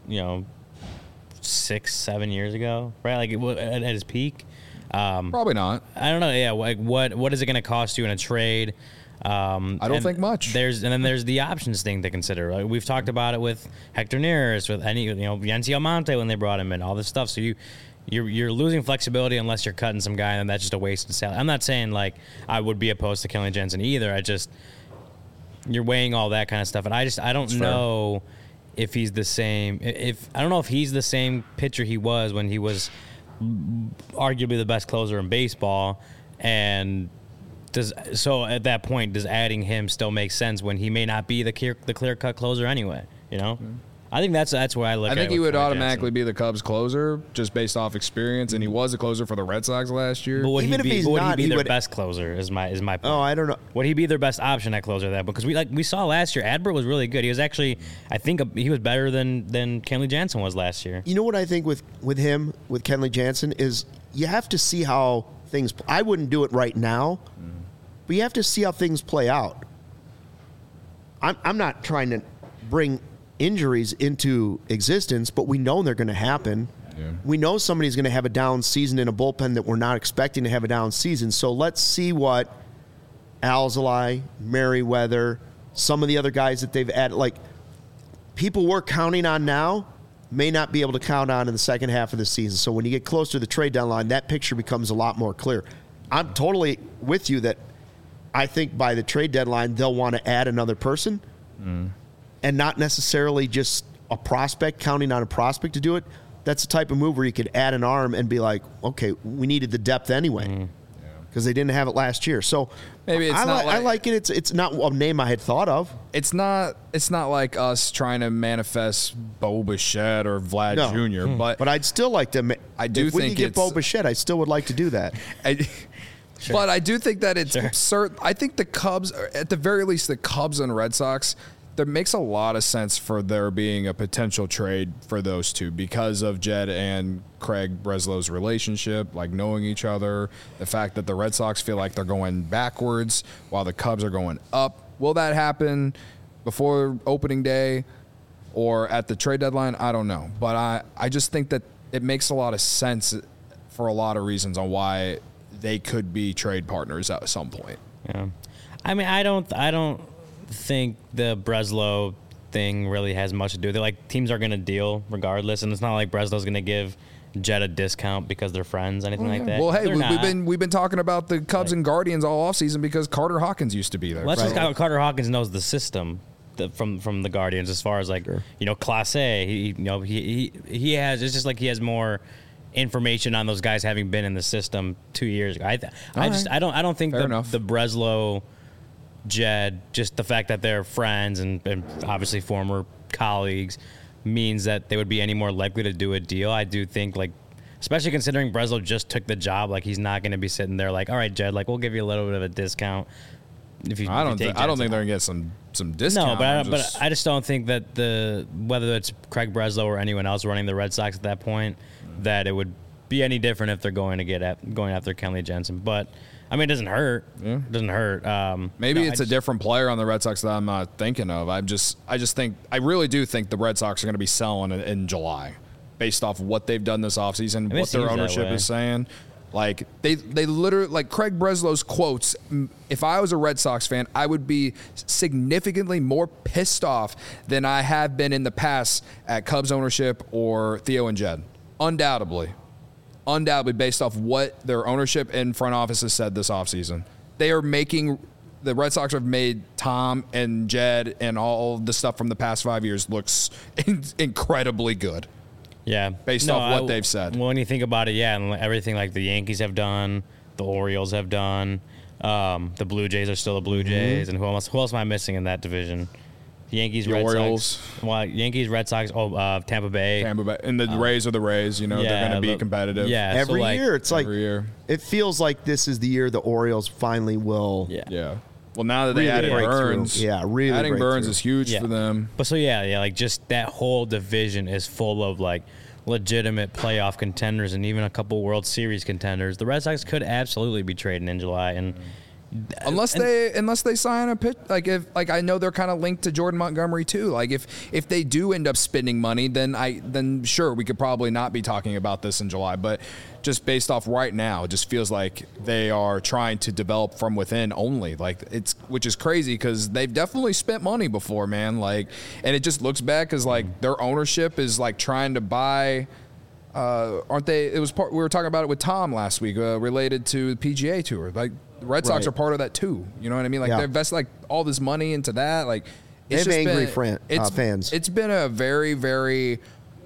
6-7 years ago, right? Like at his peak? Probably not. I don't know. Yeah, like what is it going to cost you in a trade? I don't think much. There's the options thing to consider. Like we've talked about it with Hector Neris, with Yency Almonte when they brought him in, all this stuff. So you're losing flexibility unless you're cutting some guy, and that's just a waste of salary. I'm not saying like I would be opposed to Kenley Jansen either. You're weighing all that kind of stuff, and I don't know if he's the same. I don't know if he's the same pitcher he was when he was arguably the best closer in baseball, and so at that point, does adding him still make sense when he may not be the clear cut closer anyway? Mm-hmm. I think that's where I look. I think he would automatically be the Cubs closer just based off experience, and he was a closer for the Red Sox last year. But would he be their best closer? Is my point. Oh, I don't know. Would he be their best option at closer? That because we saw last year, Adbert was really good. He was actually, I think, he was better than Kenley Jansen was last year. You know what I think with Kenley Jansen is you have to see how things. I wouldn't do it right now, but you have to see how things play out. I'm not trying to bring injuries into existence, but we know they're going to happen. Yeah. We know somebody's going to have a down season in a bullpen that we're not expecting to have a down season. So let's see what Alzolay, Merriweather, some of the other guys that they've added, like people we're counting on now may not be able to count on in the second half of the season. So when you get close to the trade deadline, that picture becomes a lot more clear. I'm totally with you that I think by the trade deadline, they'll want to add another person. And not necessarily just a prospect, counting on a prospect to do it. That's the type of move where you could add an arm and be like, okay, we needed the depth anyway because they didn't have it last year. So maybe it's I like it. It's not a name I had thought of. It's not like us trying to manifest Bo Bichette or Vlad Jr. But I'd still like to. If we could get Bo Bichette, I still would like to do that. Sure. But I do think that it's absurd. I think the Cubs, at the very least, the Cubs and Red Sox. There makes a lot of sense for there being a potential trade for those two because of Jed and Craig Breslow's relationship, like knowing each other, the fact that the Red Sox feel like they're going backwards while the Cubs are going up. Will that happen before opening day or at the trade deadline? I don't know. But I just think that it makes a lot of sense for a lot of reasons on why they could be trade partners at some point. Yeah. I mean, I don't think the Breslow thing really has much to do with it. Like, teams are going to deal regardless, and it's not like Breslow's going to give Jed a discount because they're friends, anything like that. Well, hey, we've been talking about the Cubs and Guardians all offseason because Carter Hawkins used to be there. Well, that's just Carter Hawkins knows the system from the Guardians as far as Class A. He has. It's just like he has more information on those guys having been in the system 2 years ago. I don't think the Breslow Jed, just the fact that they're friends and obviously former colleagues means that they would be any more likely to do a deal. I do think, especially considering Breslow just took the job, he's not going to be sitting there all right, Jed, we'll give you a little bit of a discount. I don't think they're going to get some discount. No, but I just don't think that whether it's Craig Breslow or anyone else running the Red Sox at that point, that it would be any different if they're going after Kenley Jensen. But I mean, it doesn't hurt. Yeah. It doesn't hurt. Maybe it's a different player on the Red Sox that I'm not thinking of. I really do think the Red Sox are going to be selling in July, based off what they've done this offseason, what their ownership is saying. Like they literally, like Craig Breslow's quotes, if I was a Red Sox fan, I would be significantly more pissed off than I have been in the past at Cubs ownership or Theo and Jed. Undoubtedly based off what their ownership and front office has said this offseason. The Red Sox have made Tom and Jed and all the stuff from the past 5 years looks incredibly good. Yeah. Based off what they've said. Well, when you think about it, and everything like the Yankees have done, the Orioles have done, the Blue Jays are still the Blue Jays, and who else am I missing in that division? Yankees, Red Orioles. Sox. Well, Yankees, Red Sox, Tampa Bay. And the Rays are the Rays, they're going to be competitive. Yeah. Every year. It's like, it feels like this is the year the Orioles finally will. Yeah. Well, now that they added Burns. Yeah, really. Adding Burns is huge for them. But so, like just that whole division is full of like legitimate playoff contenders and even a couple World Series contenders. The Red Sox could absolutely be trading in July, and unless they sign a pitch, like I know they're kind of linked to Jordan Montgomery too. Like if they do end up spending money, then sure we could probably not be talking about this in July. But just based off right now, it just feels like they are trying to develop from within only. Like which is crazy because they've definitely spent money before, man. Like, and it just looks bad because like their ownership is like trying to buy. Aren't they? We were talking about it with Tom last week, related to the PGA Tour. Like the Red Sox are part of that too. You know what I mean? Like they invest like all this money into that. Like it's just angry fans. It's been a very, very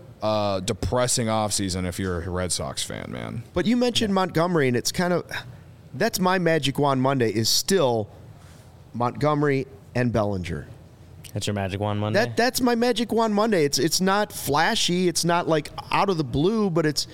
depressing offseason if you're a Red Sox fan, man. But you mentioned Montgomery, and it's kind of that's my Magic Wand Monday is still Montgomery and Bellinger. That's your Magic Wand Monday? That's my Magic Wand Monday. It's not flashy. It's not like out of the blue, but it's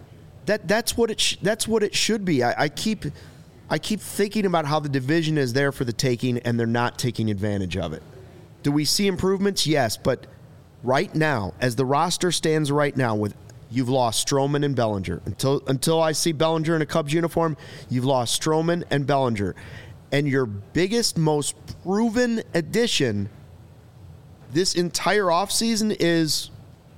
that's what it should be. I keep thinking about how the division is there for the taking, and they're not taking advantage of it. Do we see improvements? Yes, but right now, as the roster stands right now, you've lost Stroman and Bellinger. Until I see Bellinger in a Cubs uniform, you've lost Stroman and Bellinger. And your biggest, most proven addition this entire offseason is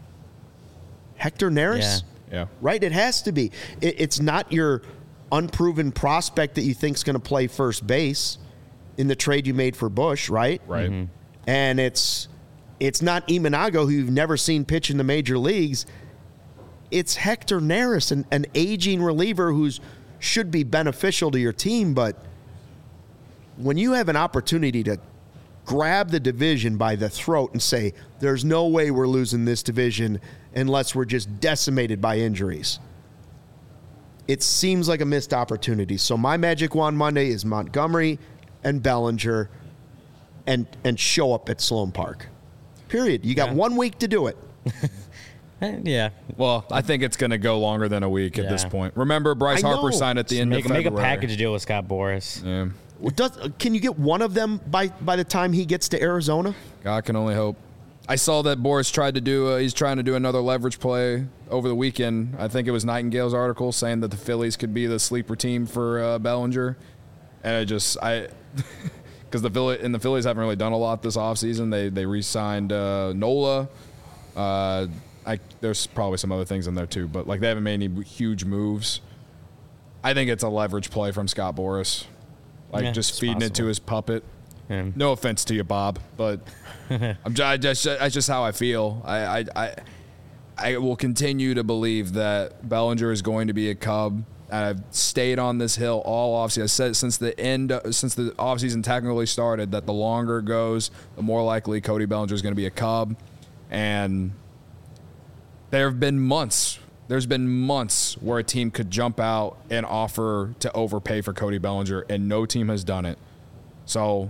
Hector Neris. Yeah. Right? It has to be. It's not your unproven prospect that you think is going to play first base in the trade you made for Bush, right? Right. Mm-hmm. And it's not Imanago, who you've never seen pitch in the major leagues. It's Hector Neris, an aging reliever who should be beneficial to your team. But when you have an opportunity to grab the division by the throat and say, there's no way we're losing this division unless we're just decimated by injuries, it seems like a missed opportunity. So my Magic Wand Monday is Montgomery and Bellinger and show up at Sloan Park. Period. You got 1 week to do it. Yeah. Well, I think it's going to go longer than a week at this point. Remember, Bryce Harper signed at the end of February. Make a package deal with Scott Boras. Yeah. Can you get one of them by the time he gets to Arizona? God can only hope. I saw that Boras tried to do. He's trying to do another leverage play over the weekend. I think it was Nightingale's article saying that the Phillies could be the sleeper team for Bellinger, and because the Phillies haven't really done a lot this offseason. They re-signed Nola. There's probably some other things in there too, but like they haven't made any huge moves. I think it's a leverage play from Scott Boras, just feeding it to his puppet. Yeah. No offense to you, Bob, but that's just how I feel. I will continue to believe that Bellinger is going to be a Cub. I've stayed on this hill all offseason. I said since the offseason technically started that the longer it goes, the more likely Cody Bellinger is going to be a Cub. And there have been months. There's been months where a team could jump out and offer to overpay for Cody Bellinger, and no team has done it. So,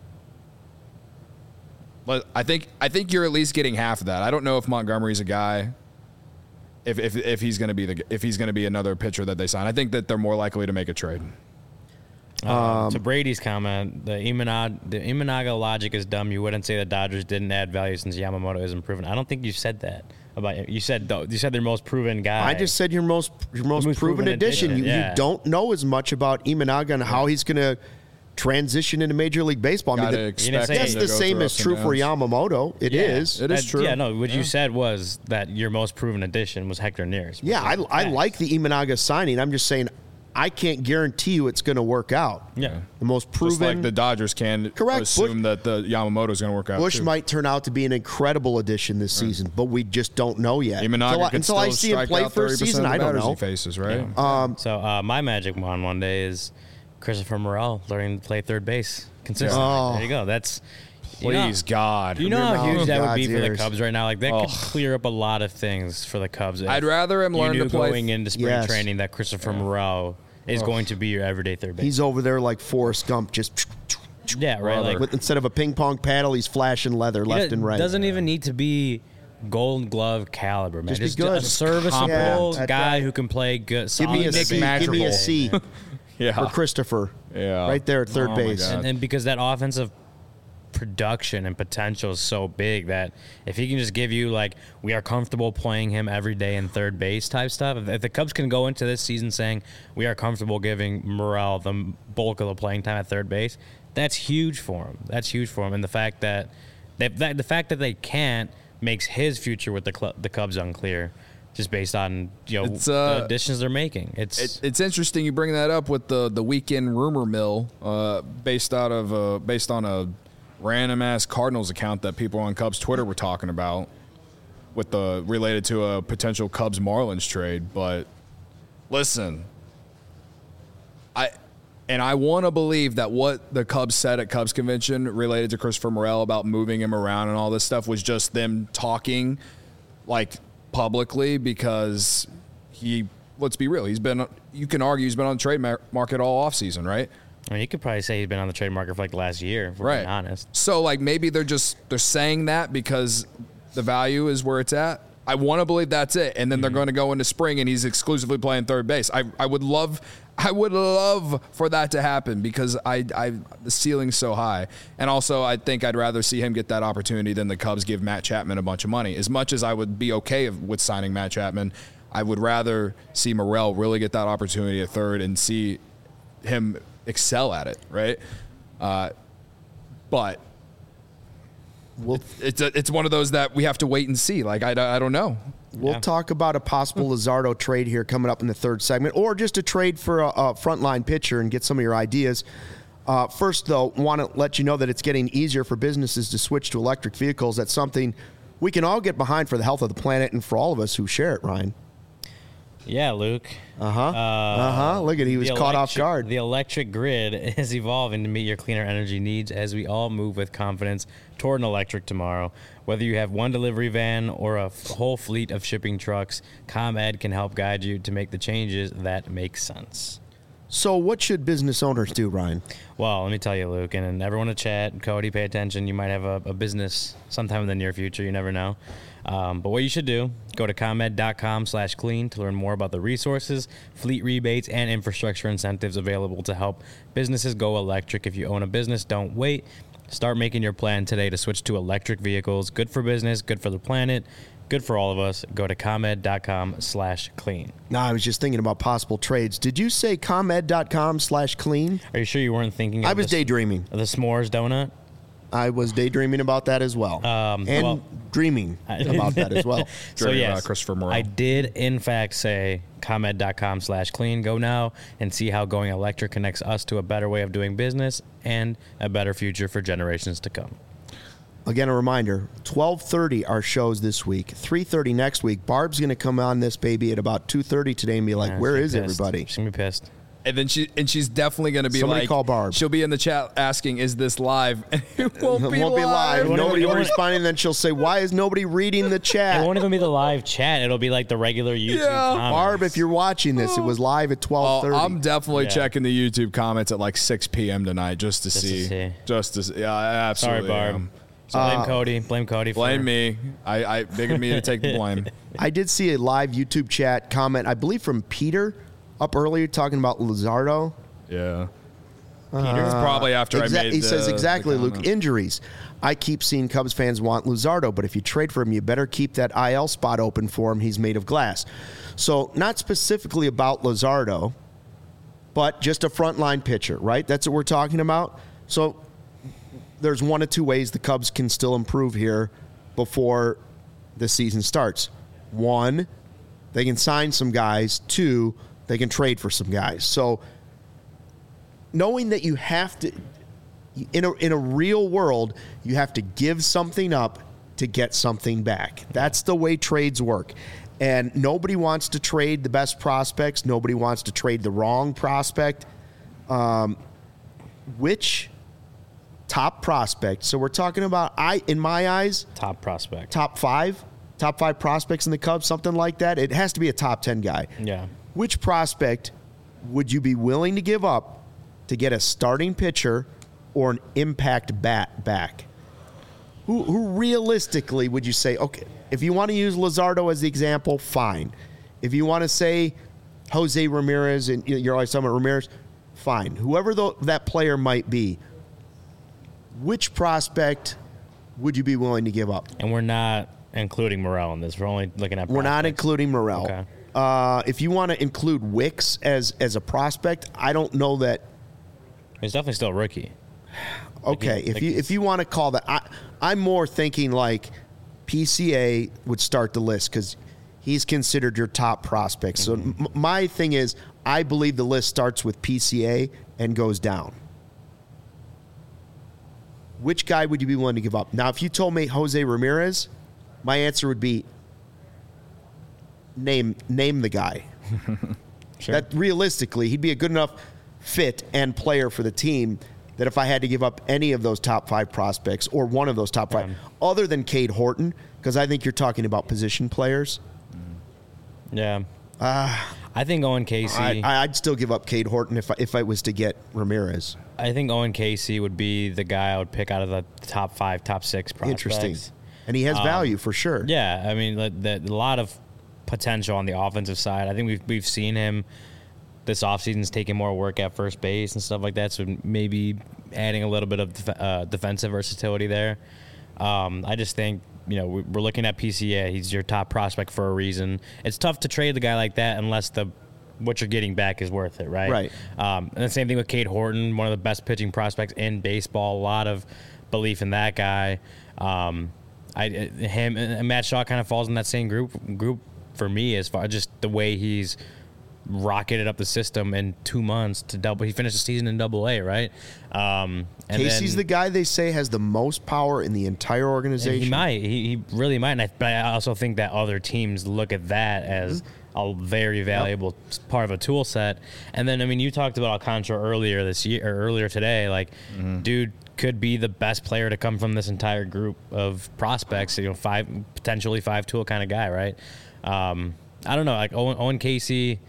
but I think you're at least getting half of that. I don't know if Montgomery's a guy. If he's going to be another pitcher that they sign, I think that they're more likely to make a trade. To Brady's comment, the Imanaga logic is dumb. You wouldn't say the Dodgers didn't add value since Yamamoto isn't proven. I don't think you said that. about you said their most proven guy. I just said your most proven addition. You don't know as much about Imanaga and how he's going to transition into Major League Baseball. I mean, that's the same as true for Yamamoto. It is. It is true. Yeah, no, what you said was that your most proven addition was Hector Neris. Yeah, I like the Imanaga signing. I'm just saying I can't guarantee you it's going to work out. Yeah. The most proven. Just like the Dodgers can assume that the Yamamoto is going to work out. Bush might turn out to be an incredible addition this season, but we just don't know yet. Until I see him play for a season, I don't know. He faces, right? Yeah. So my magic wand one day is Christopher Morel learning to play third base consistently. Oh. There you go. That's please God. You know how huge that would be for the Cubs right now. Like that could clear up a lot of things for the Cubs. I'd rather him learn to play going into spring training that Christopher Morel is going to be your everyday third base. He's over there like Forrest Gump, just right. Like instead of a ping pong paddle, he's flashing leather left and right. Doesn't even need to be Gold Glove caliber, man. Just a serviceable guy who can play good. Give me a C. For Christopher. Yeah. Right there at third base. And because that offensive production and potential is so big that if he can just give you, like, we are comfortable playing him every day in third base type stuff, if the Cubs can go into this season saying we are comfortable giving Morel the bulk of the playing time at third base, that's huge for him. And the fact that they can't makes his future with the Cubs unclear. Just based on the additions they're making, it's interesting you bring that up with the weekend rumor mill, based on a random ass Cardinals account that people on Cubs Twitter were talking about, related to a potential Cubs Marlins trade. But listen, I want to believe that what the Cubs said at Cubs convention related to Christopher Morel about moving him around and all this stuff was just them talking like publicly, because let's be real, you can argue he's been on the trade market all offseason, right? I mean, you could probably say he's been on the trade market for like the last year, if we're being honest. So like maybe they're saying that because the value is where it's at. I want to believe that's it, and then they're going to go into spring and he's exclusively playing third base. I would love for that to happen, because the ceiling's so high. And also, I think I'd rather see him get that opportunity than the Cubs give Matt Chapman a bunch of money. As much as I would be okay with signing Matt Chapman, I would rather see Morel really get that opportunity at third and see him excel at it, right? But it's one of those that we have to wait and see. Like, I don't know. We'll talk about a possible Luzardo trade here coming up in the third segment, or just a trade for a frontline pitcher and get some of your ideas. First, though, want to let you know that it's getting easier for businesses to switch to electric vehicles. That's something we can all get behind for the health of the planet and for all of us who share it, Ryan. Yeah, Luke. Look at, he was caught off guard. The electric grid is evolving to meet your cleaner energy needs as we all move with confidence toward an electric tomorrow. Whether you have one delivery van or a whole fleet of shipping trucks, ComEd can help guide you to make the changes that make sense. So what should business owners do, Ryan? Well, let me tell you, Luke, and everyone in chat, Cody, pay attention. You might have a business sometime in the near future. You never know. But what you should do, go to ComEd.com/clean to learn more about the resources, fleet rebates, and infrastructure incentives available to help businesses go electric. If you own a business, don't wait. Start making your plan today to switch to electric vehicles. Good for business, good for the planet, good for all of us. Go to ComEd.com/clean. No, I was just thinking about possible trades. Did you say ComEd.com/clean? Are you sure you weren't thinking of I was daydreaming. The s'mores donut? I was daydreaming about that as well. Dreaming about that as well. So, yes, Christopher Morel. I did, in fact, say ComEd.com/clean. Go now and see how going electric connects us to a better way of doing business and a better future for generations to come. Again, a reminder, 12:30 our shows this week, 3:30 next week. Barb's going to come on this baby at about 2:30 today and be like, where is everybody? She's going to be pissed. And then she's definitely going to be Somebody call Barb. She'll be in the chat asking, is this live? And it won't be live. Nobody will respond, and then she'll say, why is nobody reading the chat? It won't even be the live chat. It'll be like the regular YouTube comments. Barb, if you're watching this, it was live at 12:30. I'm definitely checking the YouTube comments at like 6 p.m. tonight just to see. Yeah, absolutely. Sorry, Barb. So blame Cody. Blame Cody. Blame me. I bigger me to take the blame. I did see a live YouTube chat comment, I believe from Peter, up earlier talking about Luzardo. Yeah. Peter? Probably after I made He says exactly, Luke. Injuries. I keep seeing Cubs fans want Luzardo, but if you trade for him, you better keep that IL spot open for him. He's made of glass. So not specifically about Luzardo, but just a frontline pitcher, right? That's what we're talking about. So there's one of two ways the Cubs can still improve here before the season starts. One, they can sign some guys. Two, they can trade for some guys. So knowing that you have to, in a real world, you have to give something up to get something back. That's the way trades work. And nobody wants to trade the best prospects. Nobody wants to trade the wrong prospect. Which top prospect? So we're talking about, in my eyes, top prospect. Top five prospects in the Cubs, something like that. It has to be a top 10 guy. Yeah. Which prospect would you be willing to give up to get a starting pitcher or an impact bat back? Who realistically would you say, okay, if you want to use Luzardo as the example, fine. If you want to say Jose Ramirez, and you're always talking about Ramirez, fine. Whoever that player might be, which prospect would you be willing to give up? And we're not including Morel in this. We're only looking at prospects. We're not including Morel. Okay. If you want to include Wicks as a prospect, I don't know that. He's definitely still a rookie. Okay, if you want to call that, I'm more thinking like PCA would start the list because he's considered your top prospect. So my thing is, I believe the list starts with PCA and goes down. Which guy would you be willing to give up? Now, if you told me Jose Ramirez, my answer would be name the guy. Sure. That realistically, he'd be a good enough fit and player for the team that if I had to give up any of those top five prospects or one of those top five, other than Cade Horton, because I think you're talking about position players. Yeah. I think Owen Casey. I'd still give up Cade Horton if I was to get Ramirez. I think Owen Casey would be the guy I would pick out of the top five, top six prospects. Interesting. And he has value for sure. Yeah. I mean, a lot of potential on the offensive side. I think we've seen him this offseason's taking more work at first base and stuff like that, so maybe adding a little bit of defensive versatility there. I just think, we're looking at PCA. He's your top prospect for a reason. It's tough to trade the guy like that unless what you're getting back is worth it, right? Right. And the same thing with Cade Horton, one of the best pitching prospects in baseball. A lot of belief in that guy. Him and Matt Shaw kind of falls in that same group for me as far as just the way he's rocketed up the system in 2 months to double. He finished the season in Double-A, right? Casey's the guy they say has the most power in the entire organization. He might. He really might. But I also think that other teams look at that as a very valuable part of a tool set. And then, you talked about Alcantara earlier this year or earlier today. Like, dude could be the best player to come from this entire group of prospects. Potentially five-tool kind of guy, right? I don't know. Like Owen Casey.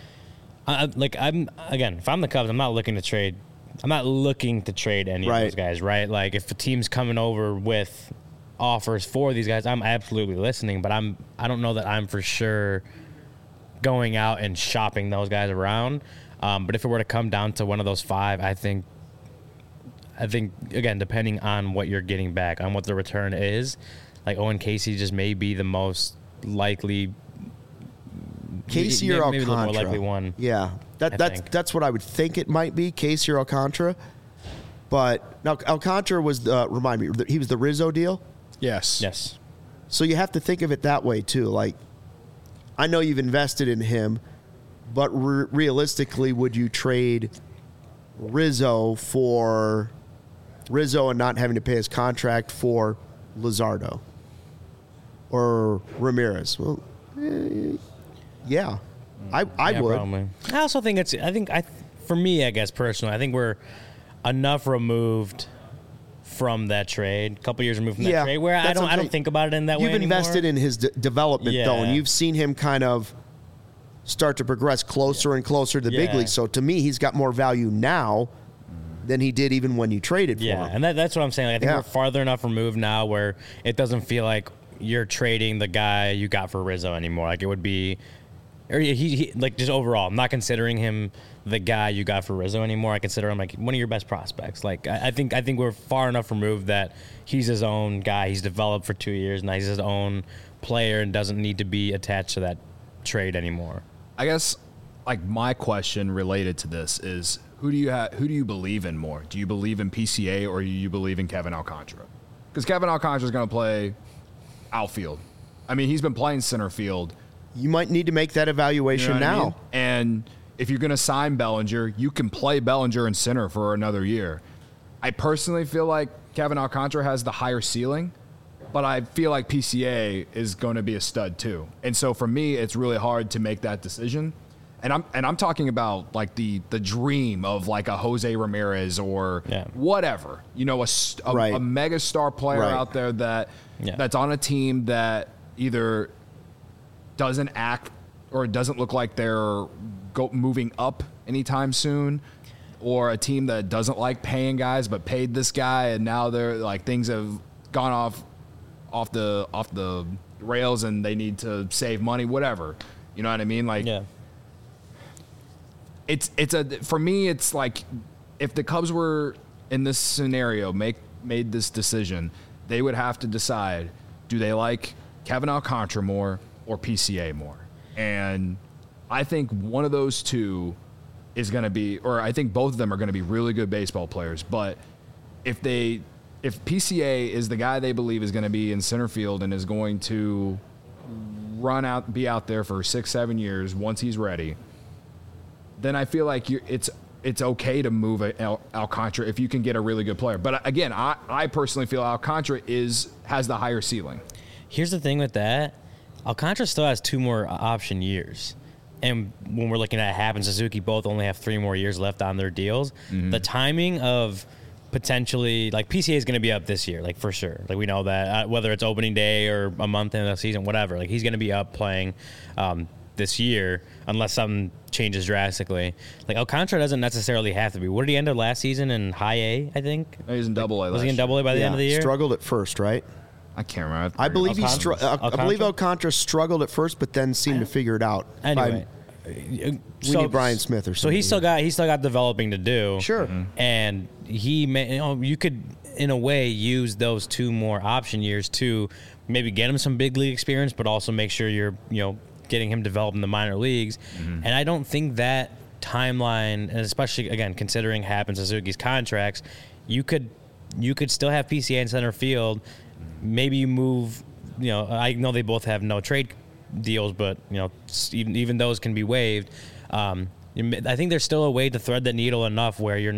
If I'm the Cubs, I'm not looking to trade. I'm not looking to trade any of those guys, right? Like, if a team's coming over with offers for these guys, I'm absolutely listening. But I don't know that I'm for sure going out and shopping those guys around. But if it were to come down to one of those five, I think again, depending on what you're getting back, on what the return is, like Owen Casey just may be the most likely. Casey or Alcantara. Maybe the more likely one. Yeah, that's what I would think it might be, Casey or Alcantara. But now Alcantara was remind me, he was the Rizzo deal. Yes. So you have to think of it that way too. Like, I know you've invested in him, but realistically, would you trade Rizzo and not having to pay his contract for Luzardo or Ramirez? Well. Yeah, I would. Probably. I also think for me, I guess personally, I think we're enough removed from that trade. A couple years removed from that trade, where I don't think about it in that way anymore. You've invested in his development though, and you've seen him kind of start to progress closer and closer to the big league. So to me, he's got more value now than he did even when you traded for him. Yeah, and that's what I'm saying. Like, I think we're farther enough removed now where it doesn't feel like you're trading the guy you got for Rizzo anymore. Like, it would be or he like just overall, I'm not considering him the guy you got for Rizzo anymore. I consider him like one of your best prospects. Like I think we're far enough removed that he's his own guy. He's developed for 2 years now. He's his own player and doesn't need to be attached to that trade anymore. I guess like my question related to this is who do you believe in more? Do you believe in PCA or do you believe in Kevin Alcantara? Because Kevin Alcantara is going to play outfield. I mean, he's been playing center field. You might need to make that evaluation now. I mean? And if you're going to sign Bellinger, you can play Bellinger in center for another year. I personally feel like Kevin Alcantara has the higher ceiling, but I feel like PCA is going to be a stud too. And so for me, it's really hard to make that decision. And I'm talking about like the dream of like a Jose Ramirez or whatever, you know, a mega star player out there that's on a team that either doesn't act or doesn't look like they're moving up anytime soon, or a team that doesn't like paying guys but paid this guy and now they're like things have gone off the rails and they need to save money, whatever. You know what I mean? Like for me it's like if the Cubs were in this scenario made this decision, they would have to decide, do they like Kevin Alcantara more or PCA more? And I think one of those two is going to be, or I think both of them are going to be really good baseball players. But if PCA is the guy they believe is going to be in center field and is going to be out there for 6-7 years once he's ready, then I feel like it's okay to move Alcantara if you can get a really good player. But again, I personally feel Alcantara has the higher ceiling. Here's the thing with that. Alcantara still has 2 more option years. And when we're looking at Happ and Suzuki, both only have 3 more years left on their deals. Mm-hmm. The timing of potentially, like PCA is going to be up this year, like for sure. Like we know that, whether it's opening day or a month into the season, whatever. Like he's going to be up playing this year unless something changes drastically. Like Alcantara doesn't necessarily have to be. What did he end up last season in high A, I think? He was in double A. Was he in double A by the end of the year? Struggled at first, right? I can't remember. I believe I believe Alcantara struggled at first, but then seemed to figure it out. Anyway, we need Brian Smith or something. So he still got developing to do. Sure. Mm-hmm. And you could in a way use those 2 more option years to maybe get him some big league experience, but also make sure you're getting him developed in the minor leagues. Mm-hmm. And I don't think that timeline, and especially again considering Happ and Suzuki's contracts, you could still have PCA in center field. Maybe you move, I know they both have no trade deals, but, even those can be waived. I think there's still a way to thread the needle enough where you're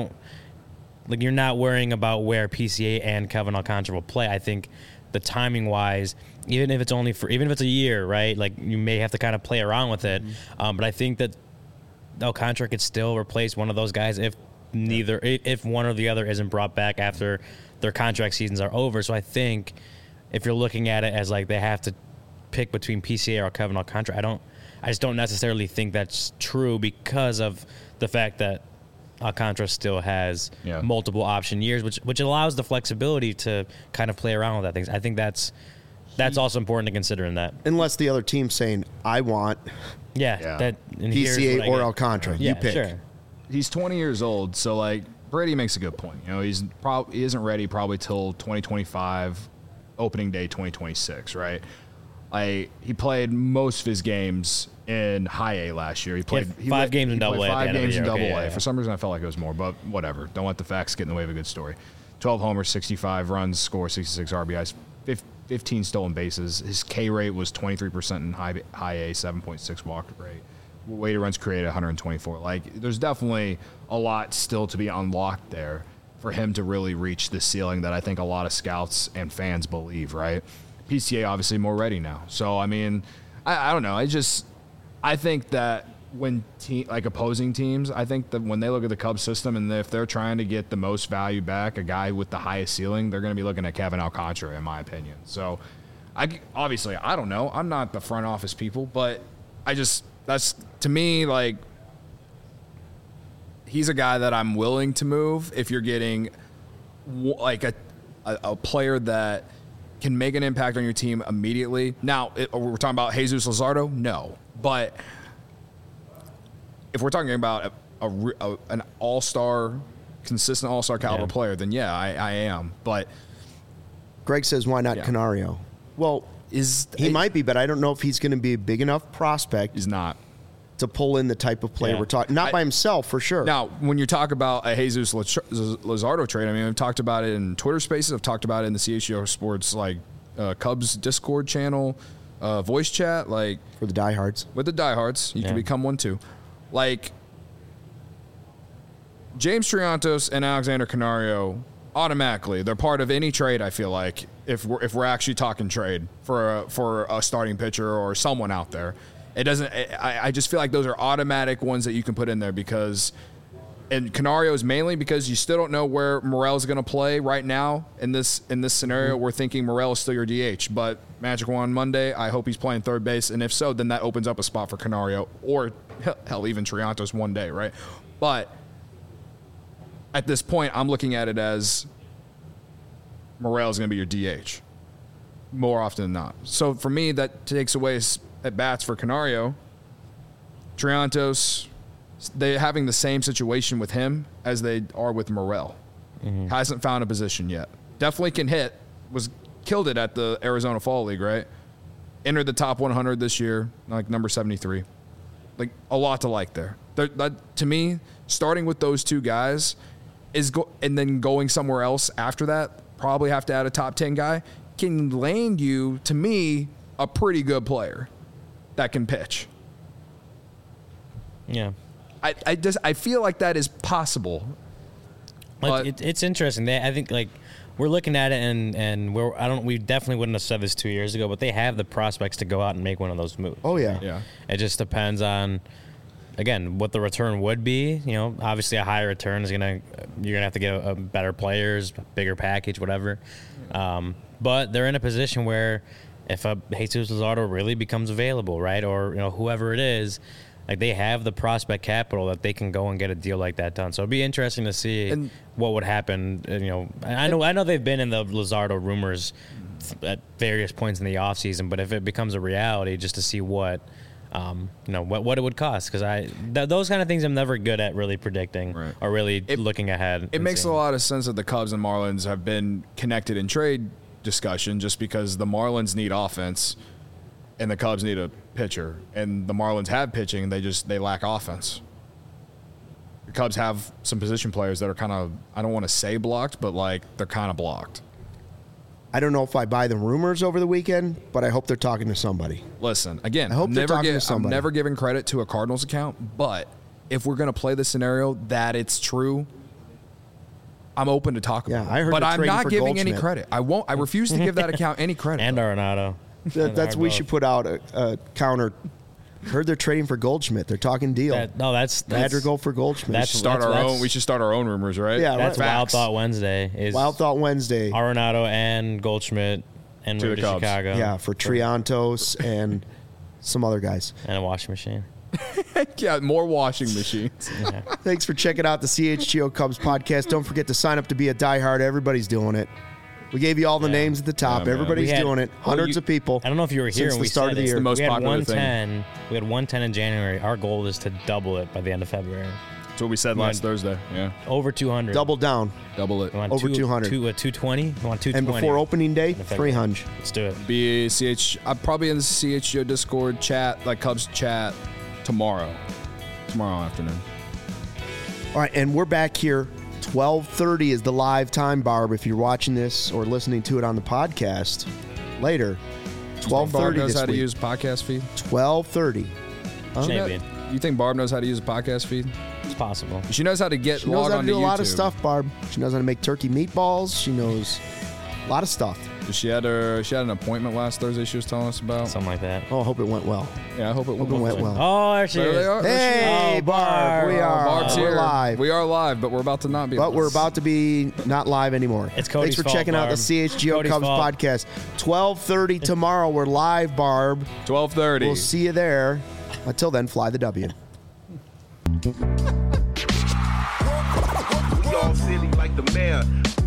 not worrying about where PCA and Kevin Alcantara will play. I think the timing wise, even if it's a year, right? Like you may have to kind of play around with it. Mm-hmm. But I think that Alcantara could still replace one of those guys if one or the other isn't brought back after their contract seasons are over. So I think if you're looking at it as like they have to pick between PCA or Kevin Alcantara, I just don't necessarily think that's true because of the fact that Alcantara still has multiple option years, which allows the flexibility to kind of play around with that things. I think that's also important to consider in that. Unless the other team's saying, I want that PCA or Alcantara. You pick. Sure. He's 20 years old, so like Brady makes a good point. He isn't ready probably till 2025, opening day 2026, right? He played most of his games in high A last year. He played 5 games in double A. 5 games in double A. For some reason, I felt like it was more, but whatever. Don't let the facts get in the way of a good story. 12 homers, 65 runs, score 66 RBIs, 15 stolen bases. His K rate was 23% in high A, 7.6 walk rate. Weighted runs created 124. Like, there's definitely a lot still to be unlocked there for him to really reach the ceiling that I think a lot of scouts and fans believe, right? PCA obviously more ready now. So, I mean, I don't know. I think that when opposing teams, I think that when they look at the Cubs system and if they're trying to get the most value back, a guy with the highest ceiling, they're going to be looking at Kevin Alcantara, in my opinion. So, I don't know. I'm not the front office people, but that's, to me, like, he's a guy that I'm willing to move if you're getting, like, a player that can make an impact on your team immediately. Now, we're talking about Jesus Luzardo? No. But if we're talking about an all-star, consistent all-star caliber player, then I am. But Greg says, why not Canario? Well, he might be, but I don't know if he's going to be a big enough prospect. He's not. To pull in the type of player we're talking. Not by himself, for sure. Now, when you talk about a Jesus Luzardo trade, I mean, I've talked about it in Twitter Spaces. I've talked about it in the CHGO Sports, Cubs Discord channel, voice chat. For the diehards. With the diehards. You can become one, too. James Triantos and Alexander Canario, automatically, they're part of any trade, I feel like, if we're actually talking trade for a starting pitcher or someone out there. It doesn't. I just feel like those are automatic ones that you can put in there and Canario is mainly because you still don't know where Morel is going to play right now in this scenario. We're thinking Morel is still your DH, but Magic Wand Monday, I hope he's playing third base, and if so, then that opens up a spot for Canario or hell, even Triantos one day, right? But at this point, I'm looking at it as Morel is going to be your DH more often than not. So for me, that takes away at bats for Canario. Triantos, they're having the same situation with him as they are with Morel. Mm-hmm. Hasn't found a position yet. Definitely can hit. Killed it at the Arizona Fall League, right? Entered the top 100 this year, number 73. A lot to like there. To me, starting with those two guys and then going somewhere else after that, probably have to add a top 10 guy, can land you, to me, a pretty good player that can pitch. Yeah. I feel like that is possible. It's interesting. I think we're looking at it and we definitely wouldn't have said this 2 years ago, but they have the prospects to go out and make one of those moves. Oh yeah. Yeah. It just depends on, again, what the return would be. Obviously a higher return you're gonna have to get a better players, bigger package, whatever. But they're in a position where if a Jesus Luzardo really becomes available, right, or whoever it is, they have the prospect capital that they can go and get a deal like that done. So it'd be interesting to see what would happen. I know they've been in the Luzardo rumors at various points in the offseason, but if it becomes a reality, just to see what it would cost, because those kind of things I'm never good at really predicting or really looking ahead. It makes a lot of sense that the Cubs and Marlins have been connected in trade discussion, just because the Marlins need offense and the Cubs need a pitcher, and the Marlins have pitching, they lack offense. The Cubs have some position players that are kind of, I don't want to say blocked, but they're kind of blocked. I don't know if I buy the rumors over the weekend, but I hope they're talking to somebody. Listen, again, I hope they're talking to somebody. I'm never giving credit to a Cardinals account, but if we're going to play the scenario that it's true, I'm open to talk about it. I heard, but I'm not giving Goldschmidt. any credit. I won't. I refuse to give that account any credit. And Arenado. We should put out a counter. Heard they're trading for Goldschmidt. They're talking deal. That's Madrigal for Goldschmidt. We should start our own rumors, right? Yeah, that's Wild Thought Wednesday. Wild Thought Wednesday. Arenado and Goldschmidt and to Chicago. Yeah, for Triantos and some other guys. And a washing machine. Yeah, more washing machines. Yeah. Thanks for checking out the CHGO Cubs podcast. Don't forget to sign up to be a diehard. Everybody's doing it. We gave you all the names at the top. Everybody's doing it. Hundreds of people. I don't know if you were here since when the we start of the year. The most popular thing. We had 110 in January. Our goal is to double it by the end of February. That's what we said last Thursday. Yeah. Over 200. Double down. Double it. Over 200. 220? You want 220? And before opening day, 300. Let's do it. I'm probably in the CHGO Discord chat, Cubs chat, tomorrow afternoon. All right, and we're back here. 12:30 is the live time, Barb. If you're watching this or listening to it on the podcast later, 12:30 Barb knows this how to week. use podcast feed. 12:30. Maybe. You think Barb knows how to use a podcast feed? It's possible. She knows how to get She knows log how on to do to a lot of YouTube. stuff, Barb. She knows how to make turkey meatballs. She knows a lot of stuff. She had an appointment last Thursday she was telling us about. Something like that. Oh, I hope it went well. Yeah, I hope it went well. Oh, there she There is. they are. Hey, Oh, Barb. We are. Barb's We're here. live. We are live, but we're about to not be. But we're about to be not live anymore. It's Cody's Thanks for fault, checking out the Barb. CHGO Cody's Cubs fault. podcast. 12:30 tomorrow. We're live, Barb. 12:30. We'll see you there. Until then, fly the W. We all silly like the mayor.